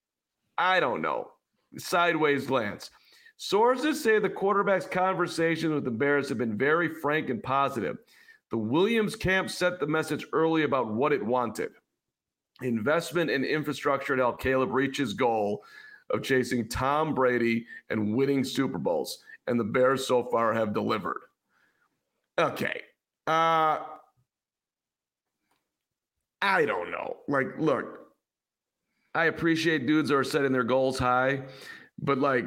I don't know, sideways glance. Sources say the quarterback's conversations with the Bears have been very frank and positive. The Williams camp set the message early about what it wanted. Investment in infrastructure to help Caleb reach his goal of chasing Tom Brady and winning Super Bowls. And the Bears so far have delivered. Okay. I don't know. Like, look, I appreciate dudes who are setting their goals high, but like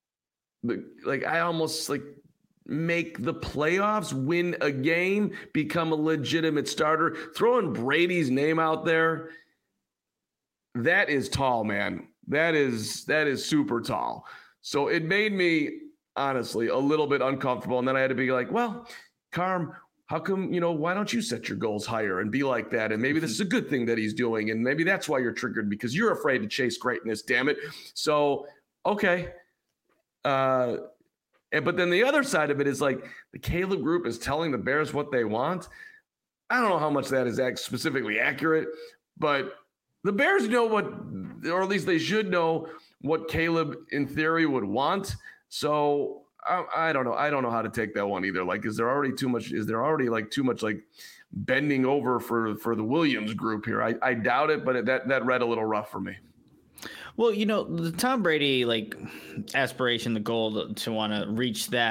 I almost make the playoffs, win a game, become a legitimate starter. Throwing Brady's name out there, that is tall, man. That is super tall. So it made me honestly a little bit uncomfortable. And then I had to be like, well, Carm, how come, why don't you set your goals higher and be like that? And maybe this is a good thing that he's doing. And maybe that's why you're triggered, because you're afraid to chase greatness, damn it. So, okay. But then the other side of it is like the Caleb group is telling the Bears what they want. I don't know how much that is specifically accurate, but the Bears know what, or at least they should know what Caleb in theory would want. So I don't know. I don't know how to take that one either. Like, is there already too much bending over for the Williams group here? I doubt it, but that read a little rough for me. Well, the Tom Brady aspiration, the goal to want to reach that,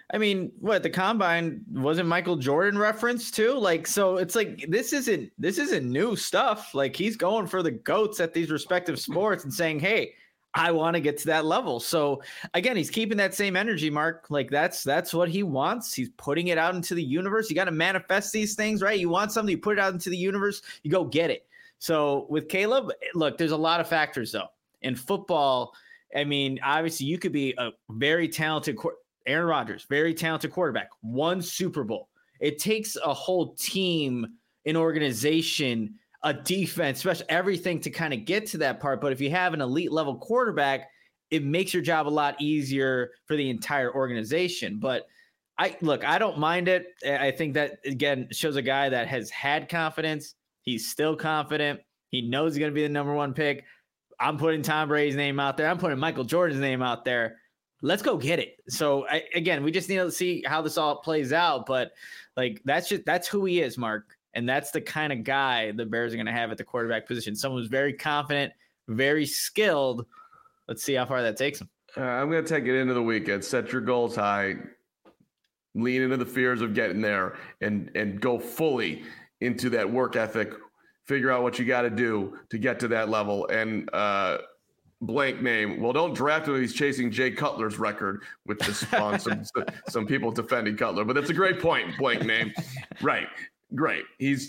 I mean, what the combine wasn't Michael Jordan reference too? Like, so it's like this isn't new stuff. Like he's going for the GOATs at these respective sports and saying, hey, I want to get to that level. So again, he's keeping that same energy, Mark. Like that's what he wants. He's putting it out into the universe. You got to manifest these things, right? You want something, you put it out into the universe, you go get it. So with Caleb, look, there's a lot of factors though. In football, I mean, obviously you could be a very talented Aaron Rodgers, very talented quarterback, won Super Bowl. It takes a whole team, an organization, a defense, especially everything to kind of get to that part. But if you have an elite level quarterback, it makes your job a lot easier for the entire organization. But I don't mind it. I think that, again, shows a guy that has had confidence. He's still confident. He knows he's going to be the number one pick. I'm putting Tom Brady's name out there. I'm putting Michael Jordan's name out there. Let's go get it. So again, we just need to see how this all plays out. But like, that's who he is, Mark. And that's the kind of guy the Bears are going to have at the quarterback position. Someone who's very confident, very skilled. Let's see how far that takes him. I'm going to take it into the weekend. Set your goals high. Lean into the fears of getting there and go fully into that work ethic. Figure out what you got to do to get to that level. And blank name. Well, don't draft him if he's chasing Jay Cutler's record, which has spawned some people defending Cutler. But that's a great point. Blank name. Right. Great. He's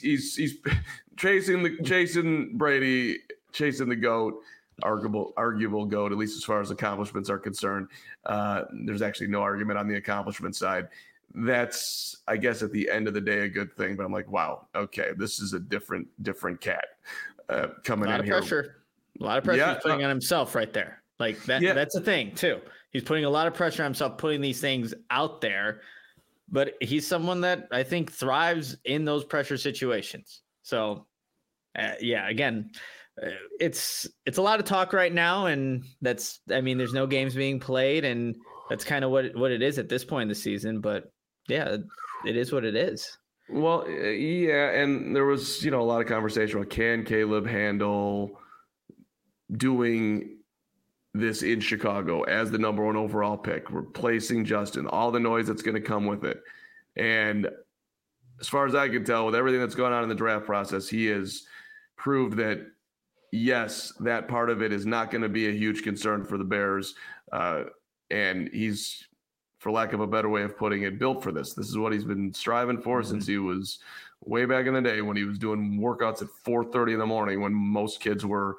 chasing Brady, chasing the GOAT, arguable GOAT, at least as far as accomplishments are concerned. There's actually no argument on the accomplishment side. That's, I guess, at the end of the day, a good thing. But I'm like, wow, okay, this is a different cat coming in here. A lot of pressure he's putting on himself right there. Like that. Yeah. That's the thing too. He's putting a lot of pressure on himself, putting these things out there. But he's someone that I think thrives in those pressure situations. So, again, it's a lot of talk right now, and there's no games being played, and that's kind of what it is at this point in the season. But yeah, it is what it is. Well, yeah, and there was a lot of conversation about can Caleb handle doing this in Chicago as the number one overall pick, replacing Justin, all the noise that's going to come with it. And as far as I can tell, with everything that's going on in the draft process, he has proved that, yes, that part of it is not going to be a huge concern for the Bears. And he's, for lack of a better way of putting it, built for this. This is what he's been striving for since he was way back in the day when he was doing workouts at 4:30 in the morning when most kids were,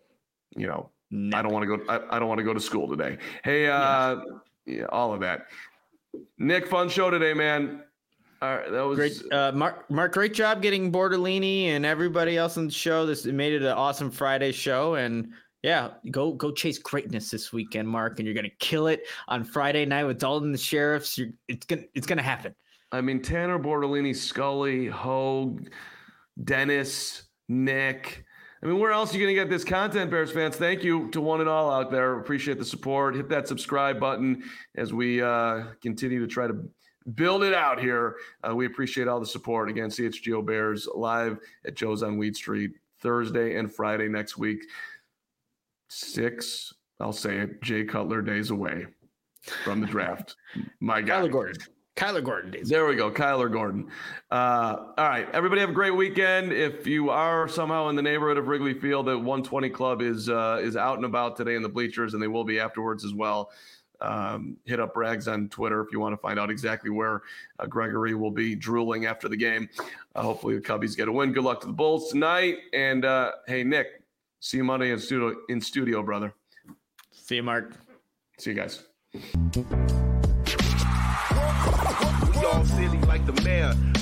I don't want to go to school today. Hey, all of that. Nick, fun show today, man. All right, that was great. Mark, great job getting Bortolini and everybody else on the show. This made it an awesome Friday show, and yeah, go chase greatness this weekend, Mark, and you're gonna kill it on Friday night with Dalton the Sheriffs. It's gonna happen. I mean, Tanner, Bortolini, Scully, Hogue, Dennis, Nick. I mean, where else are you going to get this content, Bears fans? Thank you to one and all out there. Appreciate the support. Hit that subscribe button as we continue to try to build it out here. We appreciate all the support. Again, CHGO Bears live at Joe's on Weed Street Thursday and Friday next week. 6, I'll say it, Jay Cutler days away from the draft. My guy. Kyler Gordon days. There we go. Kyler Gordon. All right. Everybody have a great weekend. If you are somehow in the neighborhood of Wrigley Field, the 120 Club is out and about today in the bleachers, and they will be afterwards as well. Hit up Rags on Twitter if you want to find out exactly where Gregory will be drooling after the game. Hopefully the Cubbies get a win. Good luck to the Bulls tonight. And hey, Nick, see you Monday in studio, brother. See you, Mark. See you guys. We all silly like the mayor.